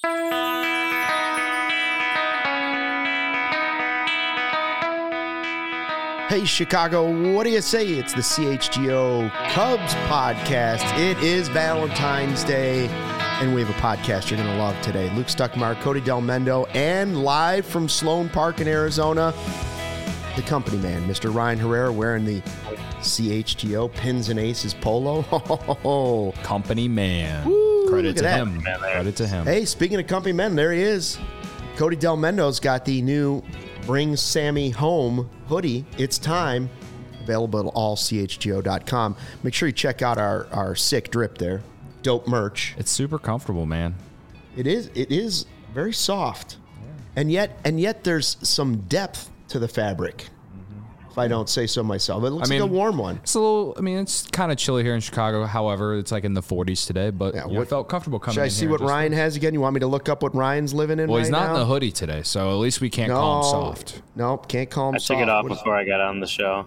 Hey, Chicago, what do you say? It's the CHGO Cubs podcast. It is Valentine's Day, and we have a podcast you're going to love today. Luke Stuckmeyer, Cody Del Mendo, and live from Sloan Park in Arizona, the company man, Mr. Ryan Herrera, wearing the CHGO Pins and Aces polo. Company man. Woo, Credit to that. him. Credit to him. Hey, speaking of company men, there he is. Cody Del Mendo's got the new Bring Sammy Home hoodie. It's time. Available at allchgo.com. Make sure you check out our sick drip there. Dope merch. It's super comfortable, man. It is very soft. Yeah. And yet there's some depth to the fabric. If I don't say so myself. It looks like a warm one. It's a little, it's kind of chilly here in Chicago. However, it's like in the 40s today, but I felt comfortable coming in here. Should I see what Ryan has again? You want me to look up what Ryan's living in right now? Well, he's not in the hoodie today, so at least we can't call him soft. Nope, can't call him soft. I took it off before I got on the show,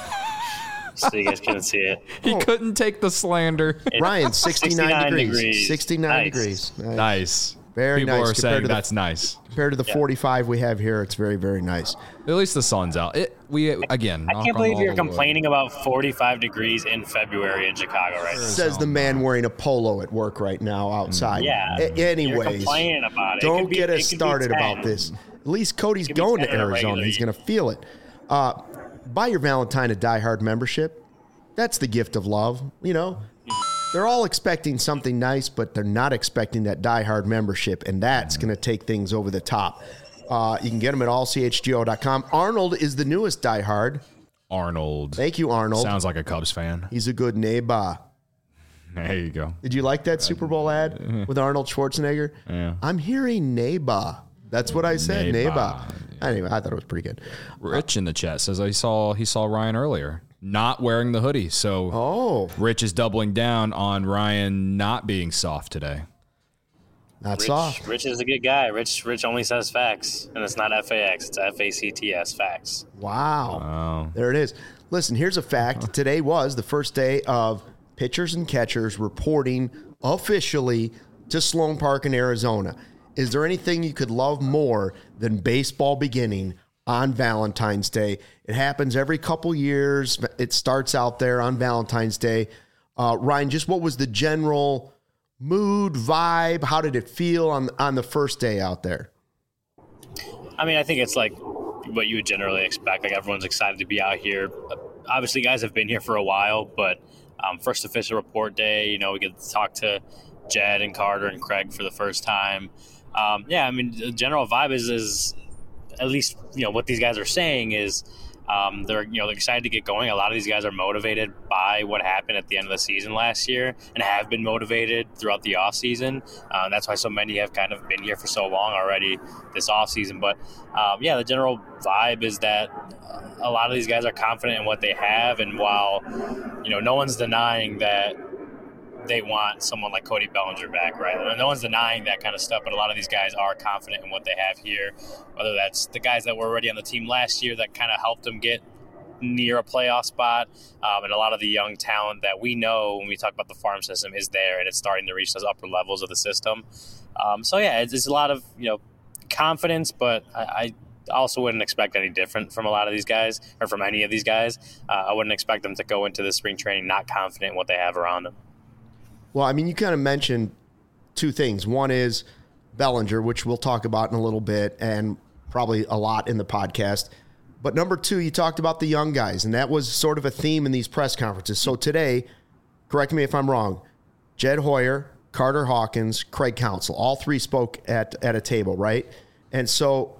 so you guys couldn't see it. He couldn't take the slander. Ryan, 69 degrees. 69 nice. degrees. Nice. Very People nice. are saying that's nice. Compared to the 45 we have here, it's very, very nice. At least the sun's out. I can't believe you're complaining about 45 degrees in February in Chicago right now. Says the man wearing a polo at work right now outside. Yeah. Anyways, you're complaining about it. Don't get us started about this. At least Cody's going to Arizona. He's going to feel it. Buy your Valentine a Die Hard membership. That's the gift of love. You know, they're all expecting something nice, but they're not expecting that Die Hard membership, and that's going to take things over the top. You can get them at allchgo.com. Arnold is the newest Die Hard. Arnold. Thank you, Arnold. Sounds like a Cubs fan. He's a good neighbor. There you go. Did you like that Super Bowl ad with Arnold Schwarzenegger? Yeah. I'm hearing neighbor. That's what I said, neighbor. Anyway, I thought it was pretty good. Rich in the chat says he saw Ryan earlier not wearing the hoodie. So Rich is doubling down on Ryan not being soft today. Not soft. Rich is a good guy. Rich only says facts, and it's not FAX. It's FACTS, facts. Wow. There it is. Listen, here's a fact. Today was the first day of pitchers and catchers reporting officially to Sloan Park in Arizona. Is there anything you could love more than baseball beginning on Valentine's Day? It happens every couple years. It starts out there on Valentine's Day. Ryan, just what was the general mood, vibe? How did it feel on the first day out there? I think it's like what you would generally expect. Like, everyone's excited to be out here. Obviously, guys have been here for a while, but first official report day, we get to talk to Jed and Carter and Craig for the first time. The general vibe is at least, what these guys are saying is they're excited to get going. A lot of these guys are motivated by what happened at the end of the season last year and have been motivated throughout the offseason. That's why so many have kind of been here for so long already this offseason. But, the general vibe is that a lot of these guys are confident in what they have. And while, no one's denying that they want someone like Cody Bellinger back, right? And no one's denying that kind of stuff, but a lot of these guys are confident in what they have here, whether that's the guys that were already on the team last year that kind of helped them get near a playoff spot, and a lot of the young talent that we know when we talk about the farm system is there, and it's starting to reach those upper levels of the system. It's a lot of, confidence, but I also wouldn't expect any different from a lot of these guys, or from any of these guys. I wouldn't expect them to go into the spring training not confident in what they have around them. Well, you kind of mentioned two things. One is Bellinger, which we'll talk about in a little bit and probably a lot in the podcast. But number two, you talked about the young guys, and that was sort of a theme in these press conferences. So today, correct me if I'm wrong, Jed Hoyer, Carter Hawkins, Craig Counsell, all three spoke at a table, right? And so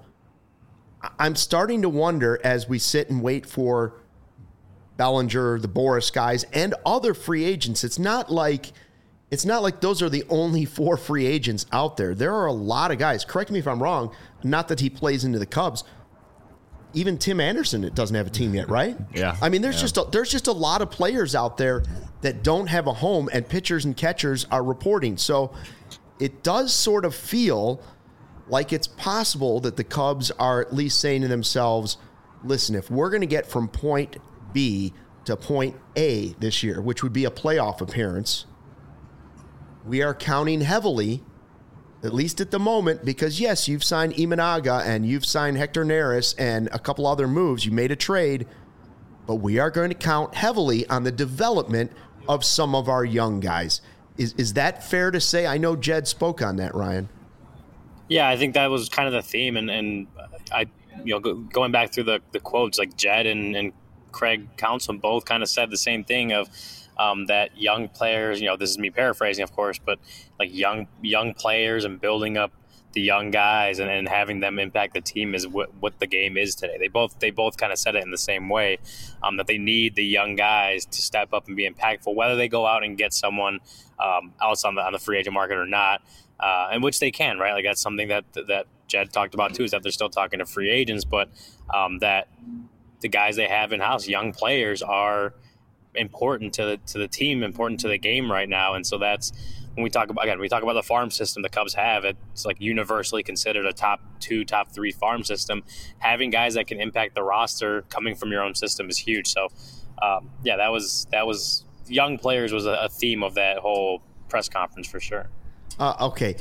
I'm starting to wonder as we sit and wait for Bellinger, the Boris guys, and other free agents. It's not like those are the only four free agents out there. There are a lot of guys. Correct me if I'm wrong. Not that he plays into the Cubs. Even Tim Anderson doesn't have a team yet, right? Yeah. There's just a lot of players out there that don't have a home, and pitchers and catchers are reporting. So it does sort of feel like it's possible that the Cubs are at least saying to themselves, listen, if we're going to get from point B to point A this year, which would be a playoff appearance, we are counting heavily at least at the moment, because yes, you've signed Imanaga and you've signed Hector Neris and a couple other moves. You made a trade, but we are going to count heavily on the development of some of our young guys. Is that fair to say? I know Jed spoke on that, Ryan. Yeah, I think that was kind of the theme, and I, going back through the quotes, like Jed and Craig Counsell both kind of said the same thing of that young players. This is me paraphrasing, of course, but like young players and building up the young guys and having them impact the team is what the game is today. They both kind of said it in the same way, that they need the young guys to step up and be impactful, whether they go out and get someone else on the free agent market or not, and which they can, right? Like that's something that Jed talked about too, is that they're still talking to free agents, but that the guys they have in house, young players, are important to the team, important to the game right now, and so that's. When we talk about the farm system the Cubs have, it's like universally considered a top 2, top 3 farm system. Having guys that can impact the roster coming from your own system is huge. So, that was young players was a theme of that whole press conference for sure. Okay,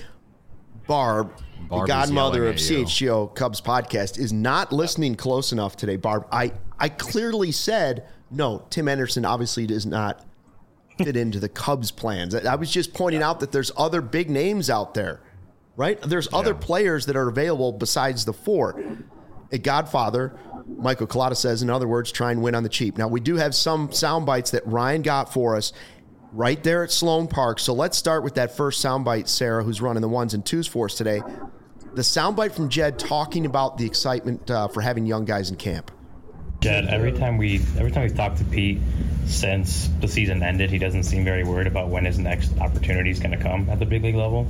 Barb, the godmother of CHGO Cubs podcast, is not listening close enough today. Barb, I clearly said no. Tim Anderson obviously does not fit into the Cubs plans. I was just pointing out that there's other big names out there, right? There's other players that are available besides the 4. A Godfather, Michael Collada says, in other words, try and win on the cheap. Now, we do have some sound bites that Ryan got for us right there at Sloan Park. So let's start with that first sound bite, Sarah, who's running the 1s and 2s for us today. The sound bite from Jed talking about the excitement for having young guys in camp. Jed, every time we've talked to Pete since the season ended, he doesn't seem very worried about when his next opportunity is going to come at the big league level.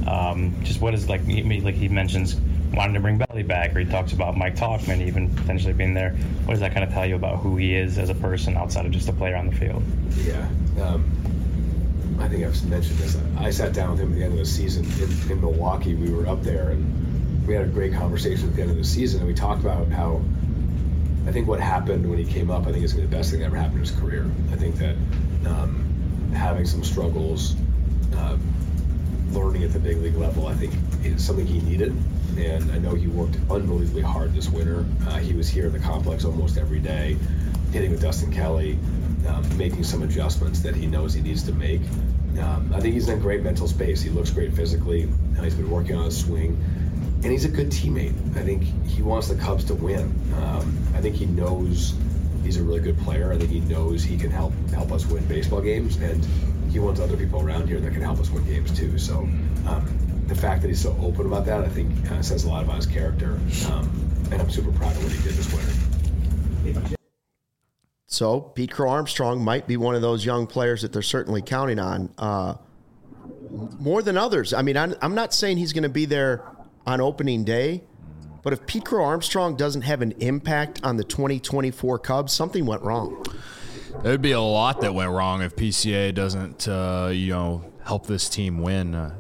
Just what is he mentions wanting to bring Belly back, or he talks about Mike Tauchman even potentially being there. What does that kind of tell you about who he is as a person outside of just a player on the field? Yeah, I think I've mentioned this. I sat down with him at the end of the season in Milwaukee. We were up there and we had a great conversation at the end of the season, and we talked about how I think what happened when he came up, I think it's going to be the best thing that ever happened in his career. I think that having some struggles, learning at the big league level, I think is something he needed. And I know he worked unbelievably hard this winter. He was here in the complex almost every day, hitting with Dustin Kelly, making some adjustments that he knows he needs to make. I think he's in a great mental space. He looks great physically. He's been working on his swing. And he's a good teammate. I think he wants the Cubs to win. I think he knows he's a really good player. I think he knows he can help us win baseball games, and he wants other people around here that can help us win games too. So the fact that he's so open about that, I think, kind of says a lot about his character. And I'm super proud of what he did this winter. So Pete Crow Armstrong might be one of those young players that they're certainly counting on more than others. I mean, I'm not saying he's going to be there on opening day, but if Pete Crow Armstrong doesn't have an impact on the 2024 Cubs, something went wrong. There'd be a lot that went wrong if PCA doesn't, help this team win.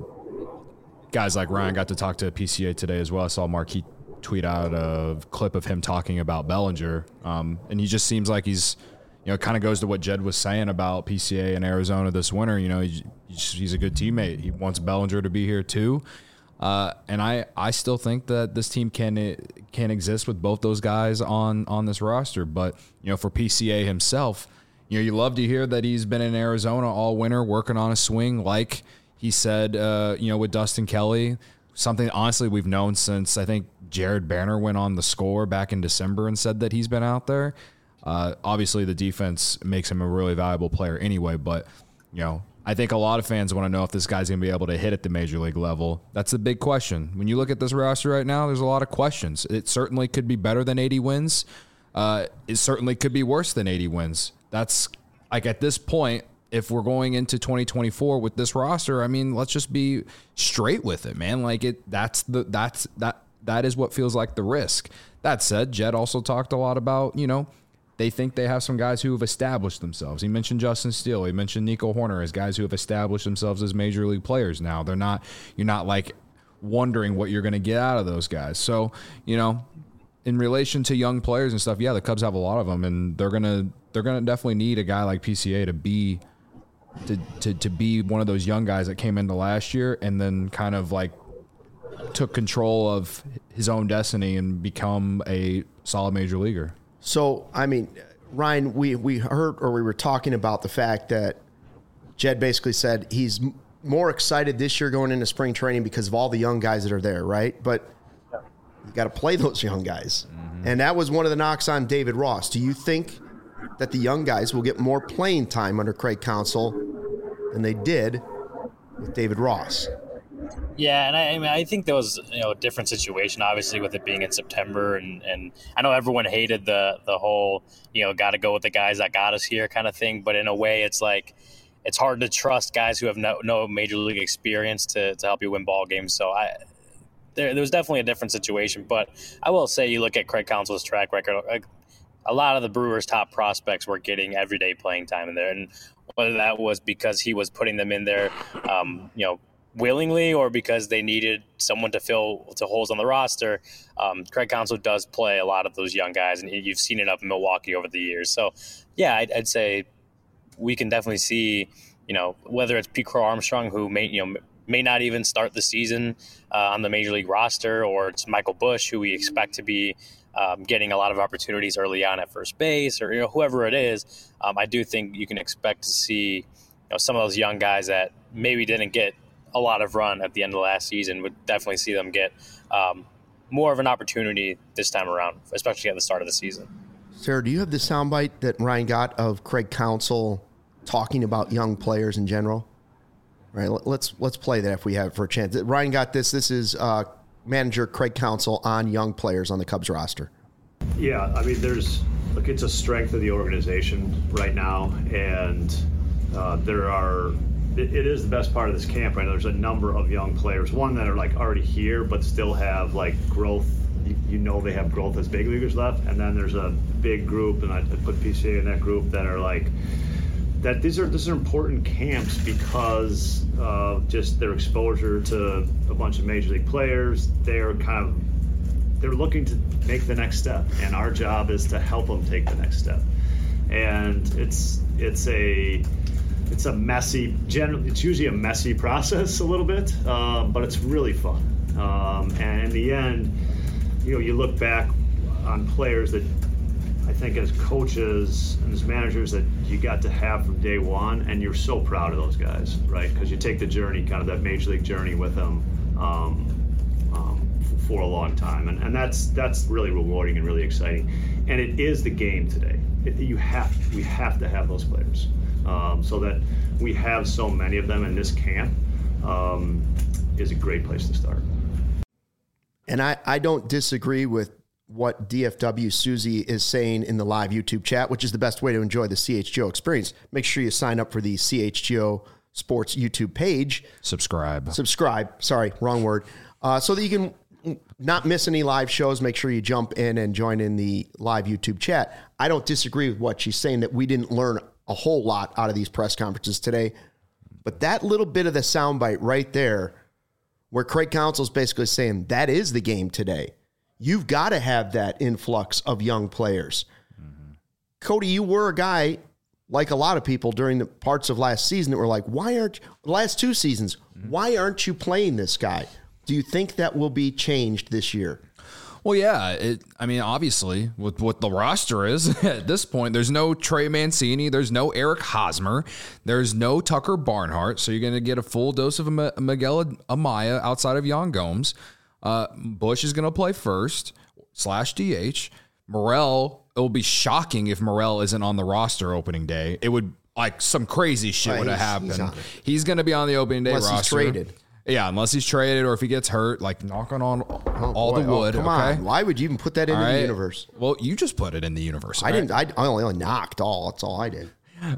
Guys like Ryan got to talk to PCA today as well. I saw Marquis tweet out a clip of him talking about Bellinger, and he just seems like he's, kind of goes to what Jed was saying about PCA in Arizona this winter. He's a good teammate. He wants Bellinger to be here too. And I still think that this team can exist with both those guys on this roster. But, for PCA himself, you love to hear that he's been in Arizona all winter working on a swing, like he said, with Dustin Kelly, something honestly we've known since I think Jared Banner went on The Score back in December and said that he's been out there. Obviously the defense makes him a really valuable player anyway, but, I think a lot of fans want to know if this guy's going to be able to hit at the major league level. That's the big question. When you look at this roster right now, there's a lot of questions. It certainly could be better than 80 wins. It certainly could be worse than 80 wins. That's like at this point, if we're going into 2024 with this roster, I mean, let's just be straight with it, man. Like that is what feels like the risk. That said, Jed also talked a lot about, they think they have some guys who have established themselves. He mentioned Justin Steele. He mentioned Nico Horner as guys who have established themselves as major league players now. You're not like wondering what you're going to get out of those guys. So, in relation to young players and stuff, yeah, the Cubs have a lot of them, and they're gonna definitely need a guy like PCA to be to be one of those young guys that came into last year and then kind of like took control of his own destiny and become a solid major leaguer. So, I mean, Ryan, we heard, or we were talking about the fact that Jed basically said he's more excited this year going into spring training because of all the young guys that are there, right? But you got to play those young guys. Mm-hmm. And that was one of the knocks on David Ross. Do you think that the young guys will get more playing time under Craig Counsell than they did with David Ross? Yeah, and I think there was a different situation, obviously, with it being in September, and I know everyone hated the whole got to go with the guys that got us here kind of thing. But in a way, it's like it's hard to trust guys who have no major league experience to help you win ball games. So there was definitely a different situation. But I will say, you look at Craig Counsell's track record, like, a lot of the Brewers' top prospects were getting everyday playing time in there, and whether that was because he was putting them in there, willingly, or because they needed someone to fill holes on the roster, Craig Counsell does play a lot of those young guys, and you've seen it up in Milwaukee over the years. So, yeah, I'd say we can definitely see, whether it's Pete Crow Armstrong, who may not even start the season on the major league roster, or it's Michael Busch, who we expect to be getting a lot of opportunities early on at first base, or whoever it is. I do think you can expect to see some of those young guys that maybe didn't get a lot of run at the end of last season, would definitely see them get more of an opportunity this time around, especially at the start of the season. Sarah, do you have the soundbite that Ryan got of Craig Counsell talking about young players in general? All right, let's play that if we have it for a chance. Ryan got this. This is manager Craig Counsell on young players on the Cubs roster. Yeah, I mean, it's a strength of the organization right now, and it is the best part of this camp right now. There's a number of young players, one that are like already here but still have like growth. They have growth as big leaguers left, and then there's a big group, and I put PCA in that group, that are like that. These are important camps because of just their exposure to a bunch of major league players. They're looking to make the next step, and our job is to help them take the next step. And it's usually a messy process a little bit, but it's really fun. And in the end, you look back on players that I think as coaches and as managers that you got to have from day one, and you're so proud of those guys, right? Because you take the journey, kind of that major league journey with them for a long time. And that's really rewarding and really exciting. And it is the game today. We have to have those players. So that we have so many of them in this camp is a great place to start. And I don't disagree with what DFW Susie is saying in the live YouTube chat, which is the best way to enjoy the CHGO experience. Make sure you sign up for the CHGO Sports YouTube page. Subscribe. Sorry, wrong word. So that you can not miss any live shows. Make sure you jump in and join in the live YouTube chat. I don't disagree with what she's saying, that we didn't learn a whole lot out of these press conferences today. But that little bit of the soundbite right there, where Craig Counsell's basically saying that is the game today. You've got to have that influx of young players. Mm-hmm. Cody, you were a guy, like a lot of people during the parts of last season, that were like, last 2 seasons, why aren't you playing this guy? Do you think that will be changed this year? Well, yeah. Obviously, with what the roster is at this point, there's no Trey Mancini, there's no Eric Hosmer, there's no Tucker Barnhart, so you're going to get a full dose of Miguel Amaya outside of Yan Gomes. Busch is going to play first /DH. Morel, it will be shocking if Morel isn't on the roster opening day. It would, like, some crazy shit would have happened. He's going to be on the opening day roster. Unless he's traded. Yeah, unless he's traded or if he gets hurt, like knocking on all the wood. Come on. Why would you even put that into the universe? Well, you just put it in the universe. I didn't. I only knocked all. That's all I did.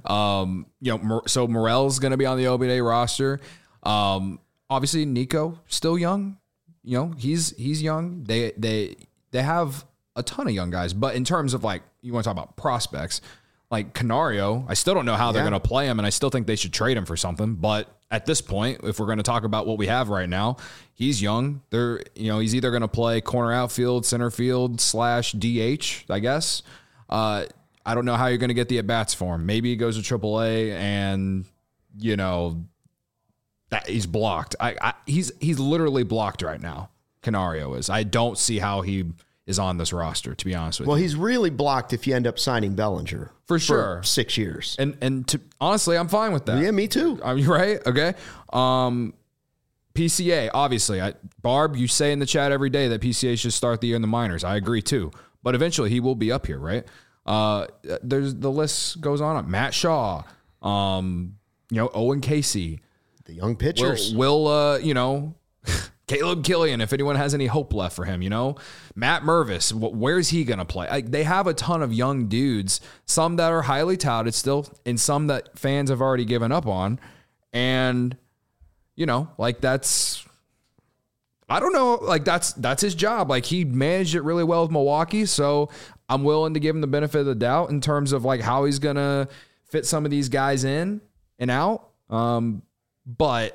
So Morel's going to be on the opening day roster. Obviously, Nico still young. He's young. They have a ton of young guys, but in terms of, like, you want to talk about prospects, like Canario, I still don't know how they're going to play him, and I still think they should trade him for something. But at this point, if we're going to talk about what we have right now, he's young. He's either going to play corner outfield, center field /DH, I guess. I don't know how you're going to get the at-bats for him. Maybe he goes to AAA and that he's blocked. He's literally blocked right now. Canario is. I don't see how he is on this roster, to be honest with you. Well, he's really blocked if you end up signing Bellinger. For sure. 6 years. And honestly, I'm fine with that. Yeah, me too. Are you right? Okay. PCA, obviously. Barb, you say in the chat every day that PCA should start the year in the minors. I agree too. But eventually he will be up here, right? There's the list goes on. Matt Shaw, Owen Casey. The young pitchers. Will Caleb Killian, if anyone has any hope left for him, Matt Mervis, where's he going to play? They have a ton of young dudes, some that are highly touted still, and some that fans have already given up on. And, that's, I don't know, that's his job. He managed it really well with Milwaukee. So I'm willing to give him the benefit of the doubt in terms of how he's going to fit some of these guys in and out. But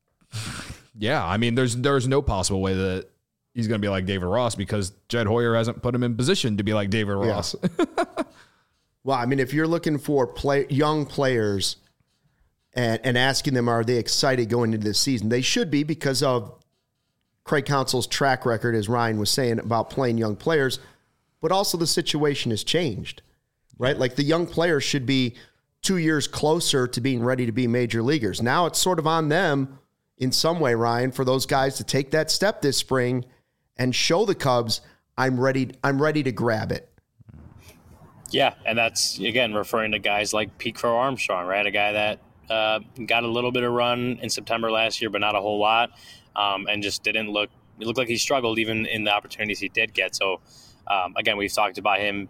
yeah, I mean, there's no possible way that he's going to be like David Ross because Jed Hoyer hasn't put him in position to be like David Ross. Yeah. Well, I mean, if you're looking for young players and asking them, are they excited going into this season? They should be because of Craig Counsell's track record, as Ryan was saying, about playing young players. But also the situation has changed, right? The young players should be 2 years closer to being ready to be major leaguers. Now it's sort of on them in some way, Ryan, for those guys to take that step this spring and show the Cubs, I'm ready to grab it. Yeah, and that's, again, referring to guys like Pete Crow Armstrong, right? A guy that got a little bit of run in September last year, but not a whole lot, and just it looked like he struggled even in the opportunities he did get. So, again, we've talked about him.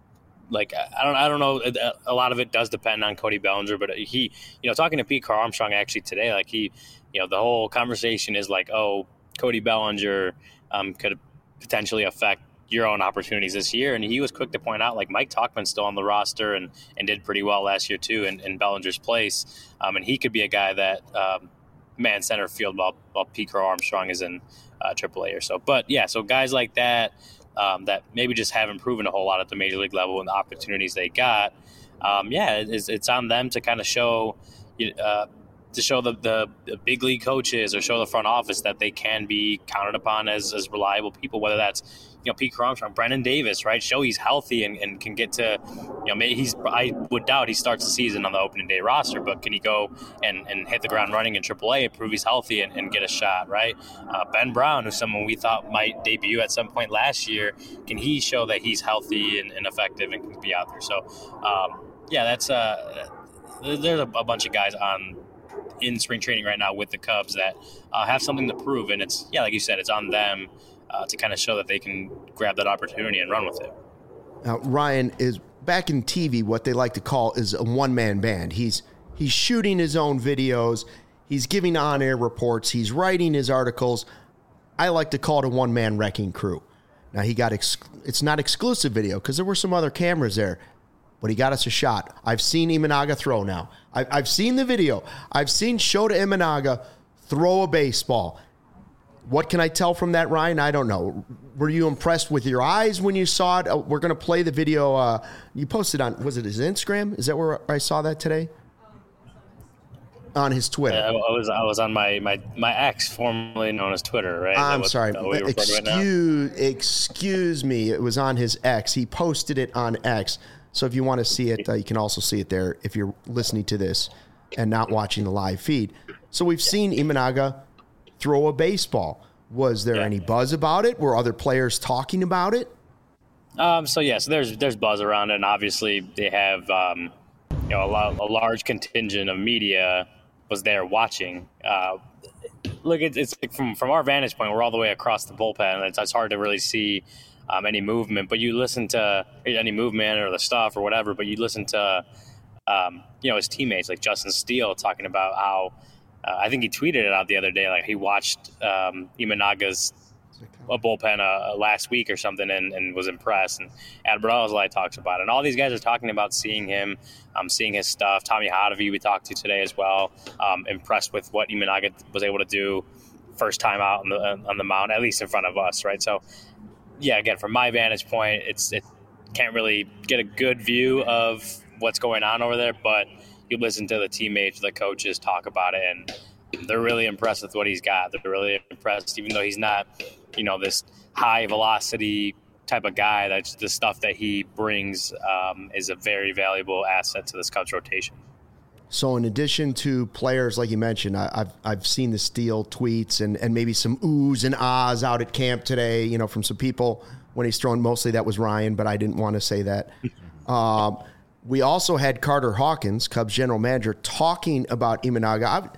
I don't know. A lot of it does depend on Cody Bellinger, but he, talking to Pete Crow Armstrong actually today, the whole conversation is Cody Bellinger could potentially affect your own opportunities this year. And he was quick to point out Mike Tauchman's still on the roster and did pretty well last year too in Bellinger's place. And he could be a guy that man center field while Pete Crow Armstrong is in AAA or so. But yeah, so guys like that, that maybe just haven't proven a whole lot at the major league level and the opportunities they got. It's on them to kind of show, to show the big league coaches or show the front office that they can be counted upon as reliable people, whether that's, Pete Crow Armstrong, Brennan Davis, right? Show he's healthy and can get to, maybe I would doubt he starts the season on the opening day roster, but can he go and hit the ground running in AAA and prove he's healthy and get a shot, right? Ben Brown, who's someone we thought might debut at some point last year, can he show that he's healthy and effective and can be out there? So, that's there's a bunch of guys in spring training right now with the Cubs that have something to prove, and it's, like you said, it's on them to kind of show that they can grab that opportunity and run with it. Now, Ryan is back in TV. What they like to call is a one-man band. He's shooting his own videos. He's giving on-air reports. He's writing his articles. I like to call it a one-man wrecking crew. Now, he got it's not exclusive video because there were some other cameras there, but he got us a shot. I've seen Imanaga throw now. I've seen the video. I've seen Shota Imanaga throw a baseball. What can I tell from that, Ryan? I don't know. Were you impressed with your eyes when you saw it? We're going to play the video. You posted on, was it his Instagram? Is that where I saw that today? On his Twitter. I was on my X, formerly known as Twitter, right? I'm sorry. Excuse me. It was on his X. He posted it on X. So if you want to see it, you can also see it there if you're listening to this and not watching the live feed. So we've seen Imanaga throw a baseball. Was there any buzz about it? Were other players talking about it? So there's buzz around it, and obviously they have a large contingent of media was there watching. Look, it's from our vantage point, we're all the way across the bullpen. It's hard to really see any movement, but you listen to any movement or the stuff or whatever. But you listen to his teammates like Justin Steele talking about how. I think he tweeted it out the other day, he watched Imanaga's bullpen last week or something and was impressed. And Adbert Alzolay talks about it. And all these guys are talking about seeing him, seeing his stuff. Tommy Hotovy we talked to today as well, impressed with what Imanaga was able to do first time out on the mound, at least in front of us, right? So, yeah, again, from my vantage point, it can't really get a good view of what's going on over there, but you listen to the teammates, the coaches talk about it, and they're really impressed with what he's got. They're really impressed, even though he's not, this high velocity type of guy. That's the stuff that he brings is a very valuable asset to this Cubs rotation. So in addition to players, like you mentioned, I've seen the Steele tweets and maybe some oohs and ahs out at camp today, from some people when he's thrown. Mostly that was Ryan, but I didn't want to say that. We also had Carter Hawkins, Cubs general manager, talking about Imanaga.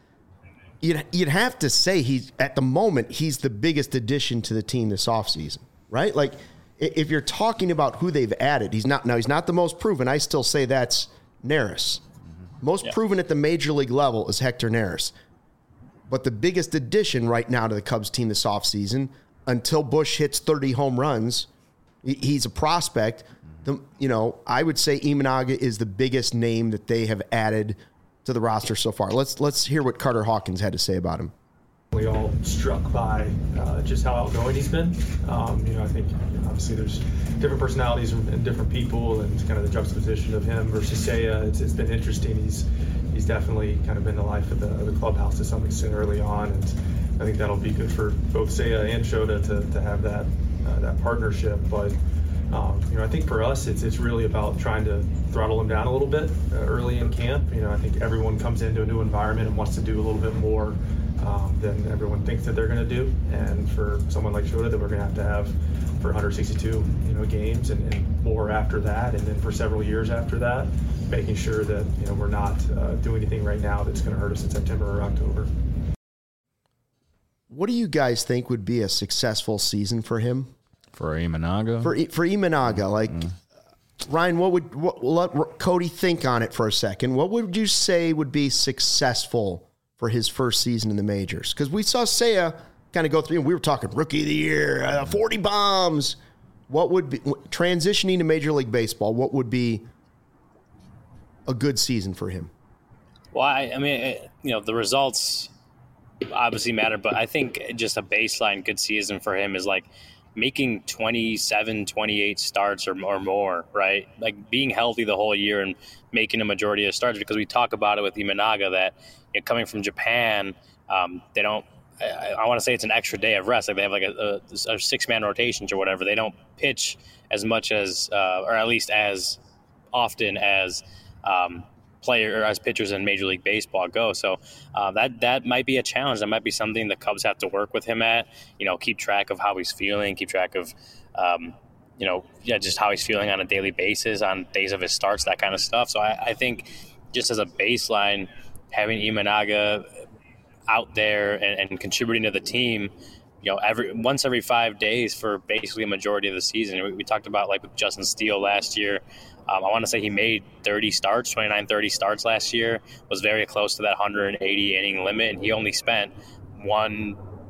You'd have to say at the moment, he's the biggest addition to the team this offseason, right? Like, if you're talking about who they've added, he's not the most proven. I still say that's Neris. Most proven at the major league level is Hector Neris. But the biggest addition right now to the Cubs team this offseason, until Bush hits 30 home runs, he's a prospect. I would say Imanaga is the biggest name that they have added to the roster so far. Let's hear what Carter Hawkins had to say about him. We all struck by just how outgoing he's been. I think obviously there's different personalities and different people, and kind of the juxtaposition of him versus Seiya. It's been interesting. He's definitely kind of been the life of the clubhouse to some extent early on, and I think that'll be good for both Seiya and Shota to have that partnership. But I think for us, it's really about trying to throttle him down a little bit early in camp. I think everyone comes into a new environment and wants to do a little bit more than everyone thinks that they're going to do. And for someone like Shota that we're going to have for 162 games and more after that, and then for several years after that, making sure that we're not doing anything right now that's going to hurt us in September or October. What do you guys think would be a successful season for him? For Imanaga? For Imanaga, Ryan, let Cody think on it for a second. What would you say would be successful for his first season in the majors? Because we saw Seiya kind of go through, and we were talking rookie of the year, 40 bombs. What would be, transitioning to Major League Baseball, what would be a good season for him? Well, I mean, the results obviously matter, but I think just a baseline good season for him is like making 27, 28 starts or more, right? Like being healthy the whole year and making a majority of starts, because we talk about it with Imanaga that coming from Japan, they don't, I want to say it's an extra day of rest. Like they have like a 6-man rotations or whatever. They don't pitch as much as, or at least as often as player or as pitchers in Major League Baseball go. So that might be a challenge. That might be something the Cubs have to work with him at. Keep track of how he's feeling. Keep track of just how he's feeling on a daily basis, on days of his starts, that kind of stuff. So I think just as a baseline, having Imanaga out there and contributing to the team, once every 5 days for basically a majority of the season. We talked about like with Justin Steele last year. I want to say he made 30 starts last year, was very close to that 180 inning limit, and he only spent one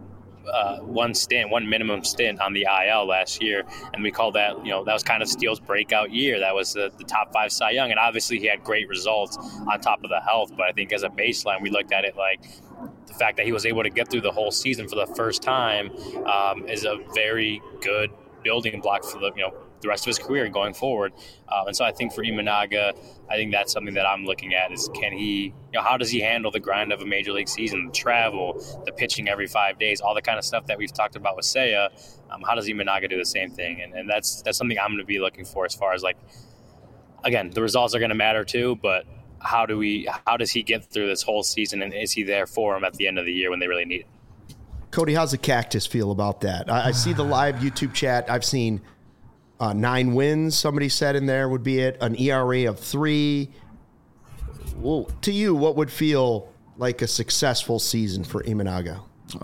minimum stint on the IL last year, and we call that, that was kind of Steele's breakout year. That was the top 5 Cy Young, and obviously he had great results on top of the health, but I think as a baseline, we looked at it like the fact that he was able to get through the whole season for the first time is a very good building block for the rest of his career going forward. And so I think for Imanaga, I think that's something that I'm looking at is, can he, how does he handle the grind of a major league season, the travel, the pitching every 5 days, all the kind of stuff that we've talked about with Seiya. How does Imanaga do the same thing? And that's something I'm going to be looking for, as far as like, again, the results are going to matter too, but how does he get through this whole season, and is he there for him at the end of the year when they really need it? Cody, how's the Cactus feel about that? I see the live YouTube chat. I've seen 9 wins, somebody said in there would be it, an ERA of 3. Well, to you, what would feel like a successful season for Imanaga?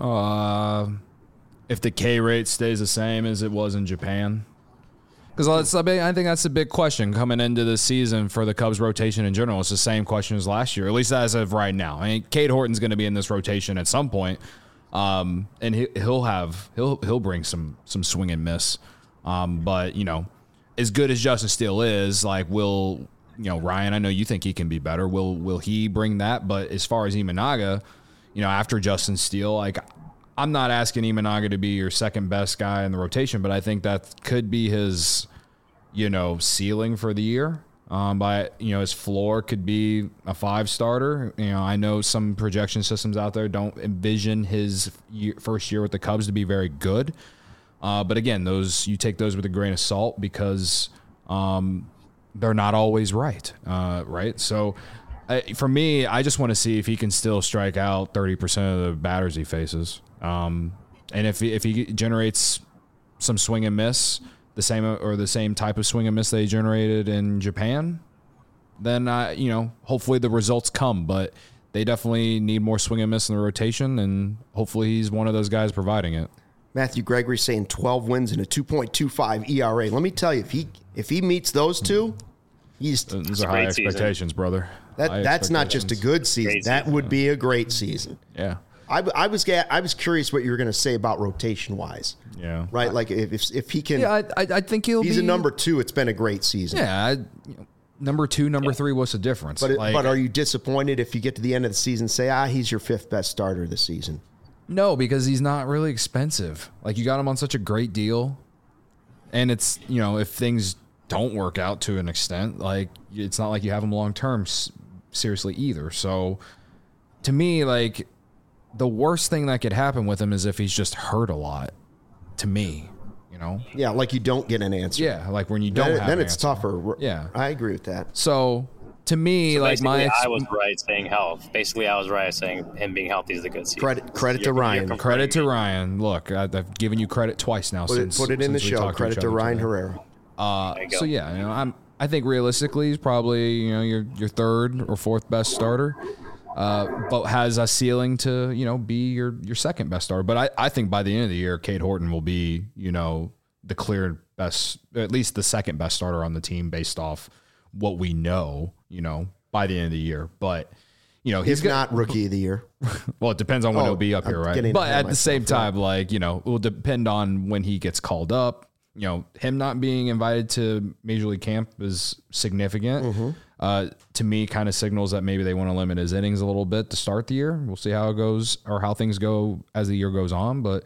If the K rate stays the same as it was in Japan. Because I think that's a big question coming into the season for the Cubs rotation in general. It's the same question as last year, at least as of right now. I mean, Cade Horton's going to be in this rotation at some point, and he'll bring some swing and miss. But as good as Justin Steele is, like, Ryan, I know you think he can be better. Will he bring that? But as far as Imanaga, after Justin Steele, like, I'm not asking Imanaga to be your second best guy in the rotation, but I think that could be his, ceiling for the year. But his floor could be a 5 starter. I know some projection systems out there don't envision his first year with the Cubs to be very good. But again, you take those with a grain of salt because they're not always right. Right. So for me, I just want to see if he can still strike out 30% of the batters he faces. And if he generates some swing and miss, the same type of swing and miss that he generated in Japan, then hopefully the results come. But they definitely need more swing and miss in the rotation, and hopefully he's one of those guys providing it. Matthew Gregory saying 12 wins and a 2.25 ERA. Let me tell you, if he meets those two, those are high expectations, brother. That's not just a good season. That would be a great season. Yeah. I was curious what you were going to say about rotation wise. Yeah. Right. Like if he can. Yeah, I think he's a number 2. It's been a great season. Yeah. Number 2, number 3. What's the difference? But are you disappointed if you get to the end of the season, say, he's your 5th best starter this season? No, because he's not really expensive. Like, you got him on such a great deal, and it's if things don't work out to an extent, like it's not like you have him long term seriously either. So to me, like, the worst thing that could happen with him is if he's just hurt a lot. To me, Yeah, like you don't get an answer. Yeah, like when you don't have then an it's answer. tougher. Yeah, I agree with that. So to me, like I was right saying health. Basically, I was right saying him being healthy is a good season. Credit to Ryan. Credit to Ryan. Look, I've given you credit twice now. Put it in the show. Credit to Ryan Herrera. So yeah, I think realistically he's probably your 3rd or 4th best starter. But has a ceiling to, be your 2nd best starter. But I think by the end of the year, Cade Horton will be, the clear best, at least the 2nd best starter on the team based off what we know, by the end of the year. But, he's not rookie of the year. Well, it depends on when he'll be up here, right? But at the same time, it will depend on when he gets called up. Him not being invited to Major League Camp is significant. Mm-hmm. To me, kind of signals that maybe they want to limit his innings a little bit to start the year. We'll see how it goes or how things go as the year goes on. But,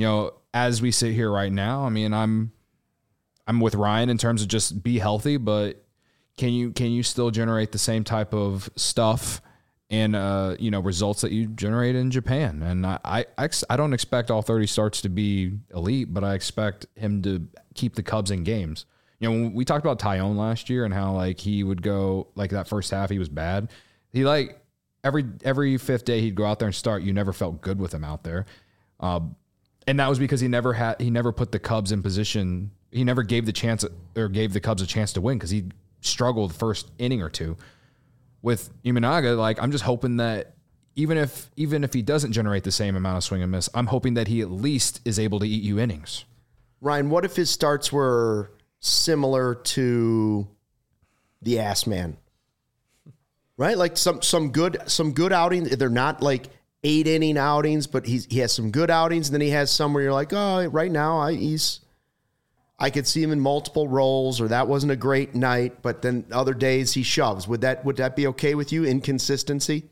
as we sit here right now, I mean, I'm with Ryan in terms of just be healthy, but can you still generate the same type of stuff and results that you generate in Japan? And I don't expect all 30 starts to be elite, but I expect him to keep the Cubs in games. When we talked about Tyone last year and how like he would go like that first half he was bad. He like every 5th day he'd go out there and start. You never felt good with him out there, and that was because he never put the Cubs in position. He never gave the Cubs a chance to win because he struggled the first inning or two. With Imanaga, like I'm just hoping that even if he doesn't generate the same amount of swing and miss, I'm hoping that he at least is able to eat you innings. Ryan, what if his starts were similar to the Ass Man? Right? Like some good outings. They're not like 8-inning outings, but he has some good outings, and then he has some where you're like, oh, right now I could see him in multiple roles, or that wasn't a great night, but then other days he shoves. Would that be okay with you? Inconsistency?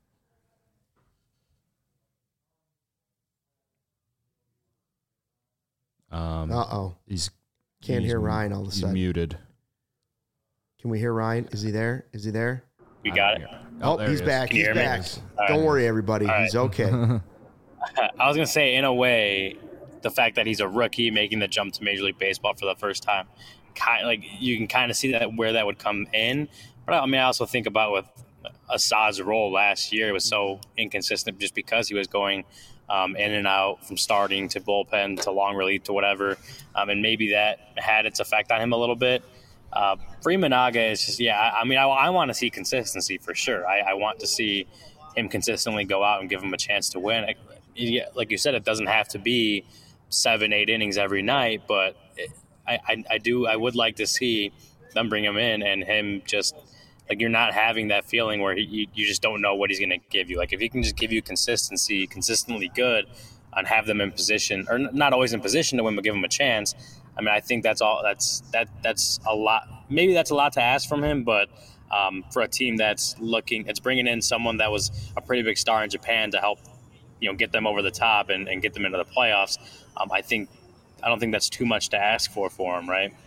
He's can't hear Ryan all of a sudden. He's muted. Can we hear Ryan? Is he there? We got it. Oh, he's back. He's back. Don't worry, everybody. He's okay. I was going to say, in a way, the fact that he's a rookie making the jump to Major League Baseball for the first time, you can kind of see that where that would come in. But I mean, I also think about with Assad's role last year, it was so inconsistent just because he was going in and out from starting to bullpen to long relief to whatever. And maybe that had its effect on him a little bit. For Imanaga, it's just, I want to see consistency for sure. I want to see him consistently go out and give him a chance to win. Like you said, it doesn't have to be 7-8 innings every night, but I would like to see them bring him in and him just like you're not having that feeling where you just don't know what he's going to give you. Like if he can just give you consistently good and have them in position, or not always in position to win, but give him a chance. I mean, I think that's a lot. Maybe that's a lot to ask from him, but for a team that's bringing in someone that was a pretty big star in Japan to help, get them over the top and get them into the playoffs. I don't think that's too much to ask for him, right?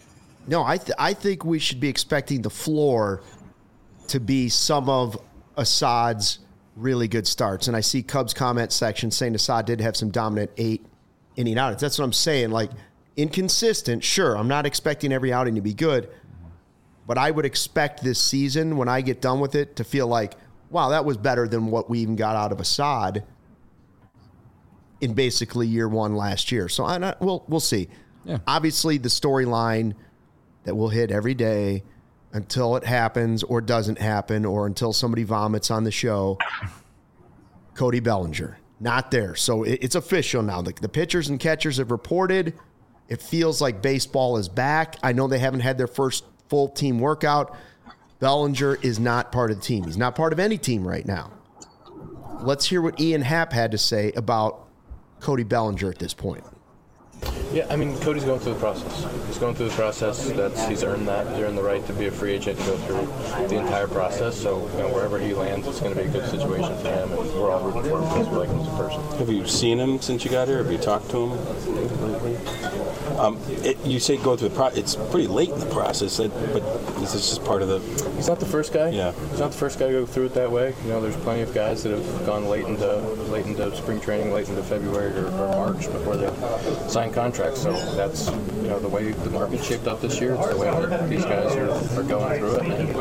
No, I think we should be expecting the floor to be some of Assad's really good starts. And I see Cubs comment section saying Assad did have some dominant 8-inning outings. That's what I'm saying. Like, inconsistent, sure. I'm not expecting every outing to be good. But I would expect this season, when I get done with it, to feel like, wow, that was better than what we even got out of Assad in basically year one last year. So we'll see. Yeah. Obviously, the storyline that we'll hit every day until it happens or doesn't happen or until somebody vomits on the show, Cody Bellinger, not there. So it's official now. The pitchers and catchers have reported. It feels like baseball is back. I know they haven't had their first full team workout. Bellinger is not part of the team. He's not part of any team right now. Let's hear what Ian Happ had to say about Cody Bellinger at this point. Yeah, I mean, Cody's going through the process. He's going through the process. He's earned that. He's earned the right to be a free agent and go through the entire process. So, wherever he lands, it's going to be a good situation for him, and we're all rooting for him because we like him as a person. Have you seen him since you got here? Have you talked to him lately? You say go through the process. It's pretty late in the process, but is this just part of the... He's not the first guy. Yeah. He's not the first guy to go through it that way. There's plenty of guys that have gone late into spring training, late into February or March before they sign contracts. So that's the way the market's shaped up this year. It's the way that these guys are going through it. And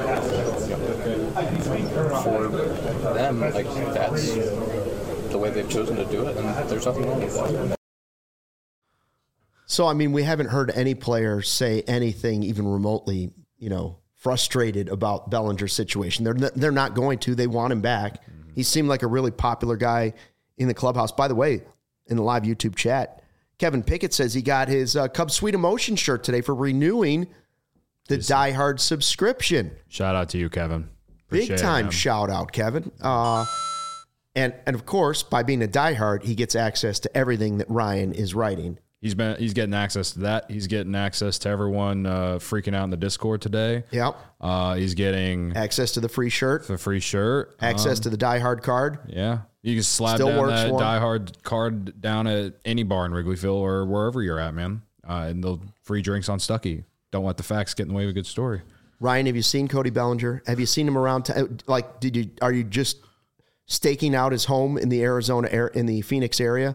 for them, that's the way they've chosen to do it, and there's nothing wrong with that. So, I mean, we haven't heard any player say anything even remotely, frustrated about Bellinger's situation. They're not going to. They want him back. Mm-hmm. He seemed like a really popular guy in the clubhouse. By the way, in the live YouTube chat, Kevin Pickett says he got his Cubs Sweet Emotion shirt today for renewing the Die Hard subscription. Shout out to you, Kevin. Big time shout out, Kevin. And of course, by being a diehard, he gets access to everything that Ryan is writing. He's getting access to that. He's getting access to everyone freaking out in the Discord today. Yep. He's getting access to the free shirt. The free shirt. Access to the Die Hard card. Yeah. You can slap down that Die Hard card down at any bar in Wrigleyville or wherever you're at, man. And they'll free drinks on Stuckey. Don't let the facts get in the way of a good story. Ryan, have you seen Cody Bellinger? Have you seen him around? Are you just staking out his home in the Phoenix area?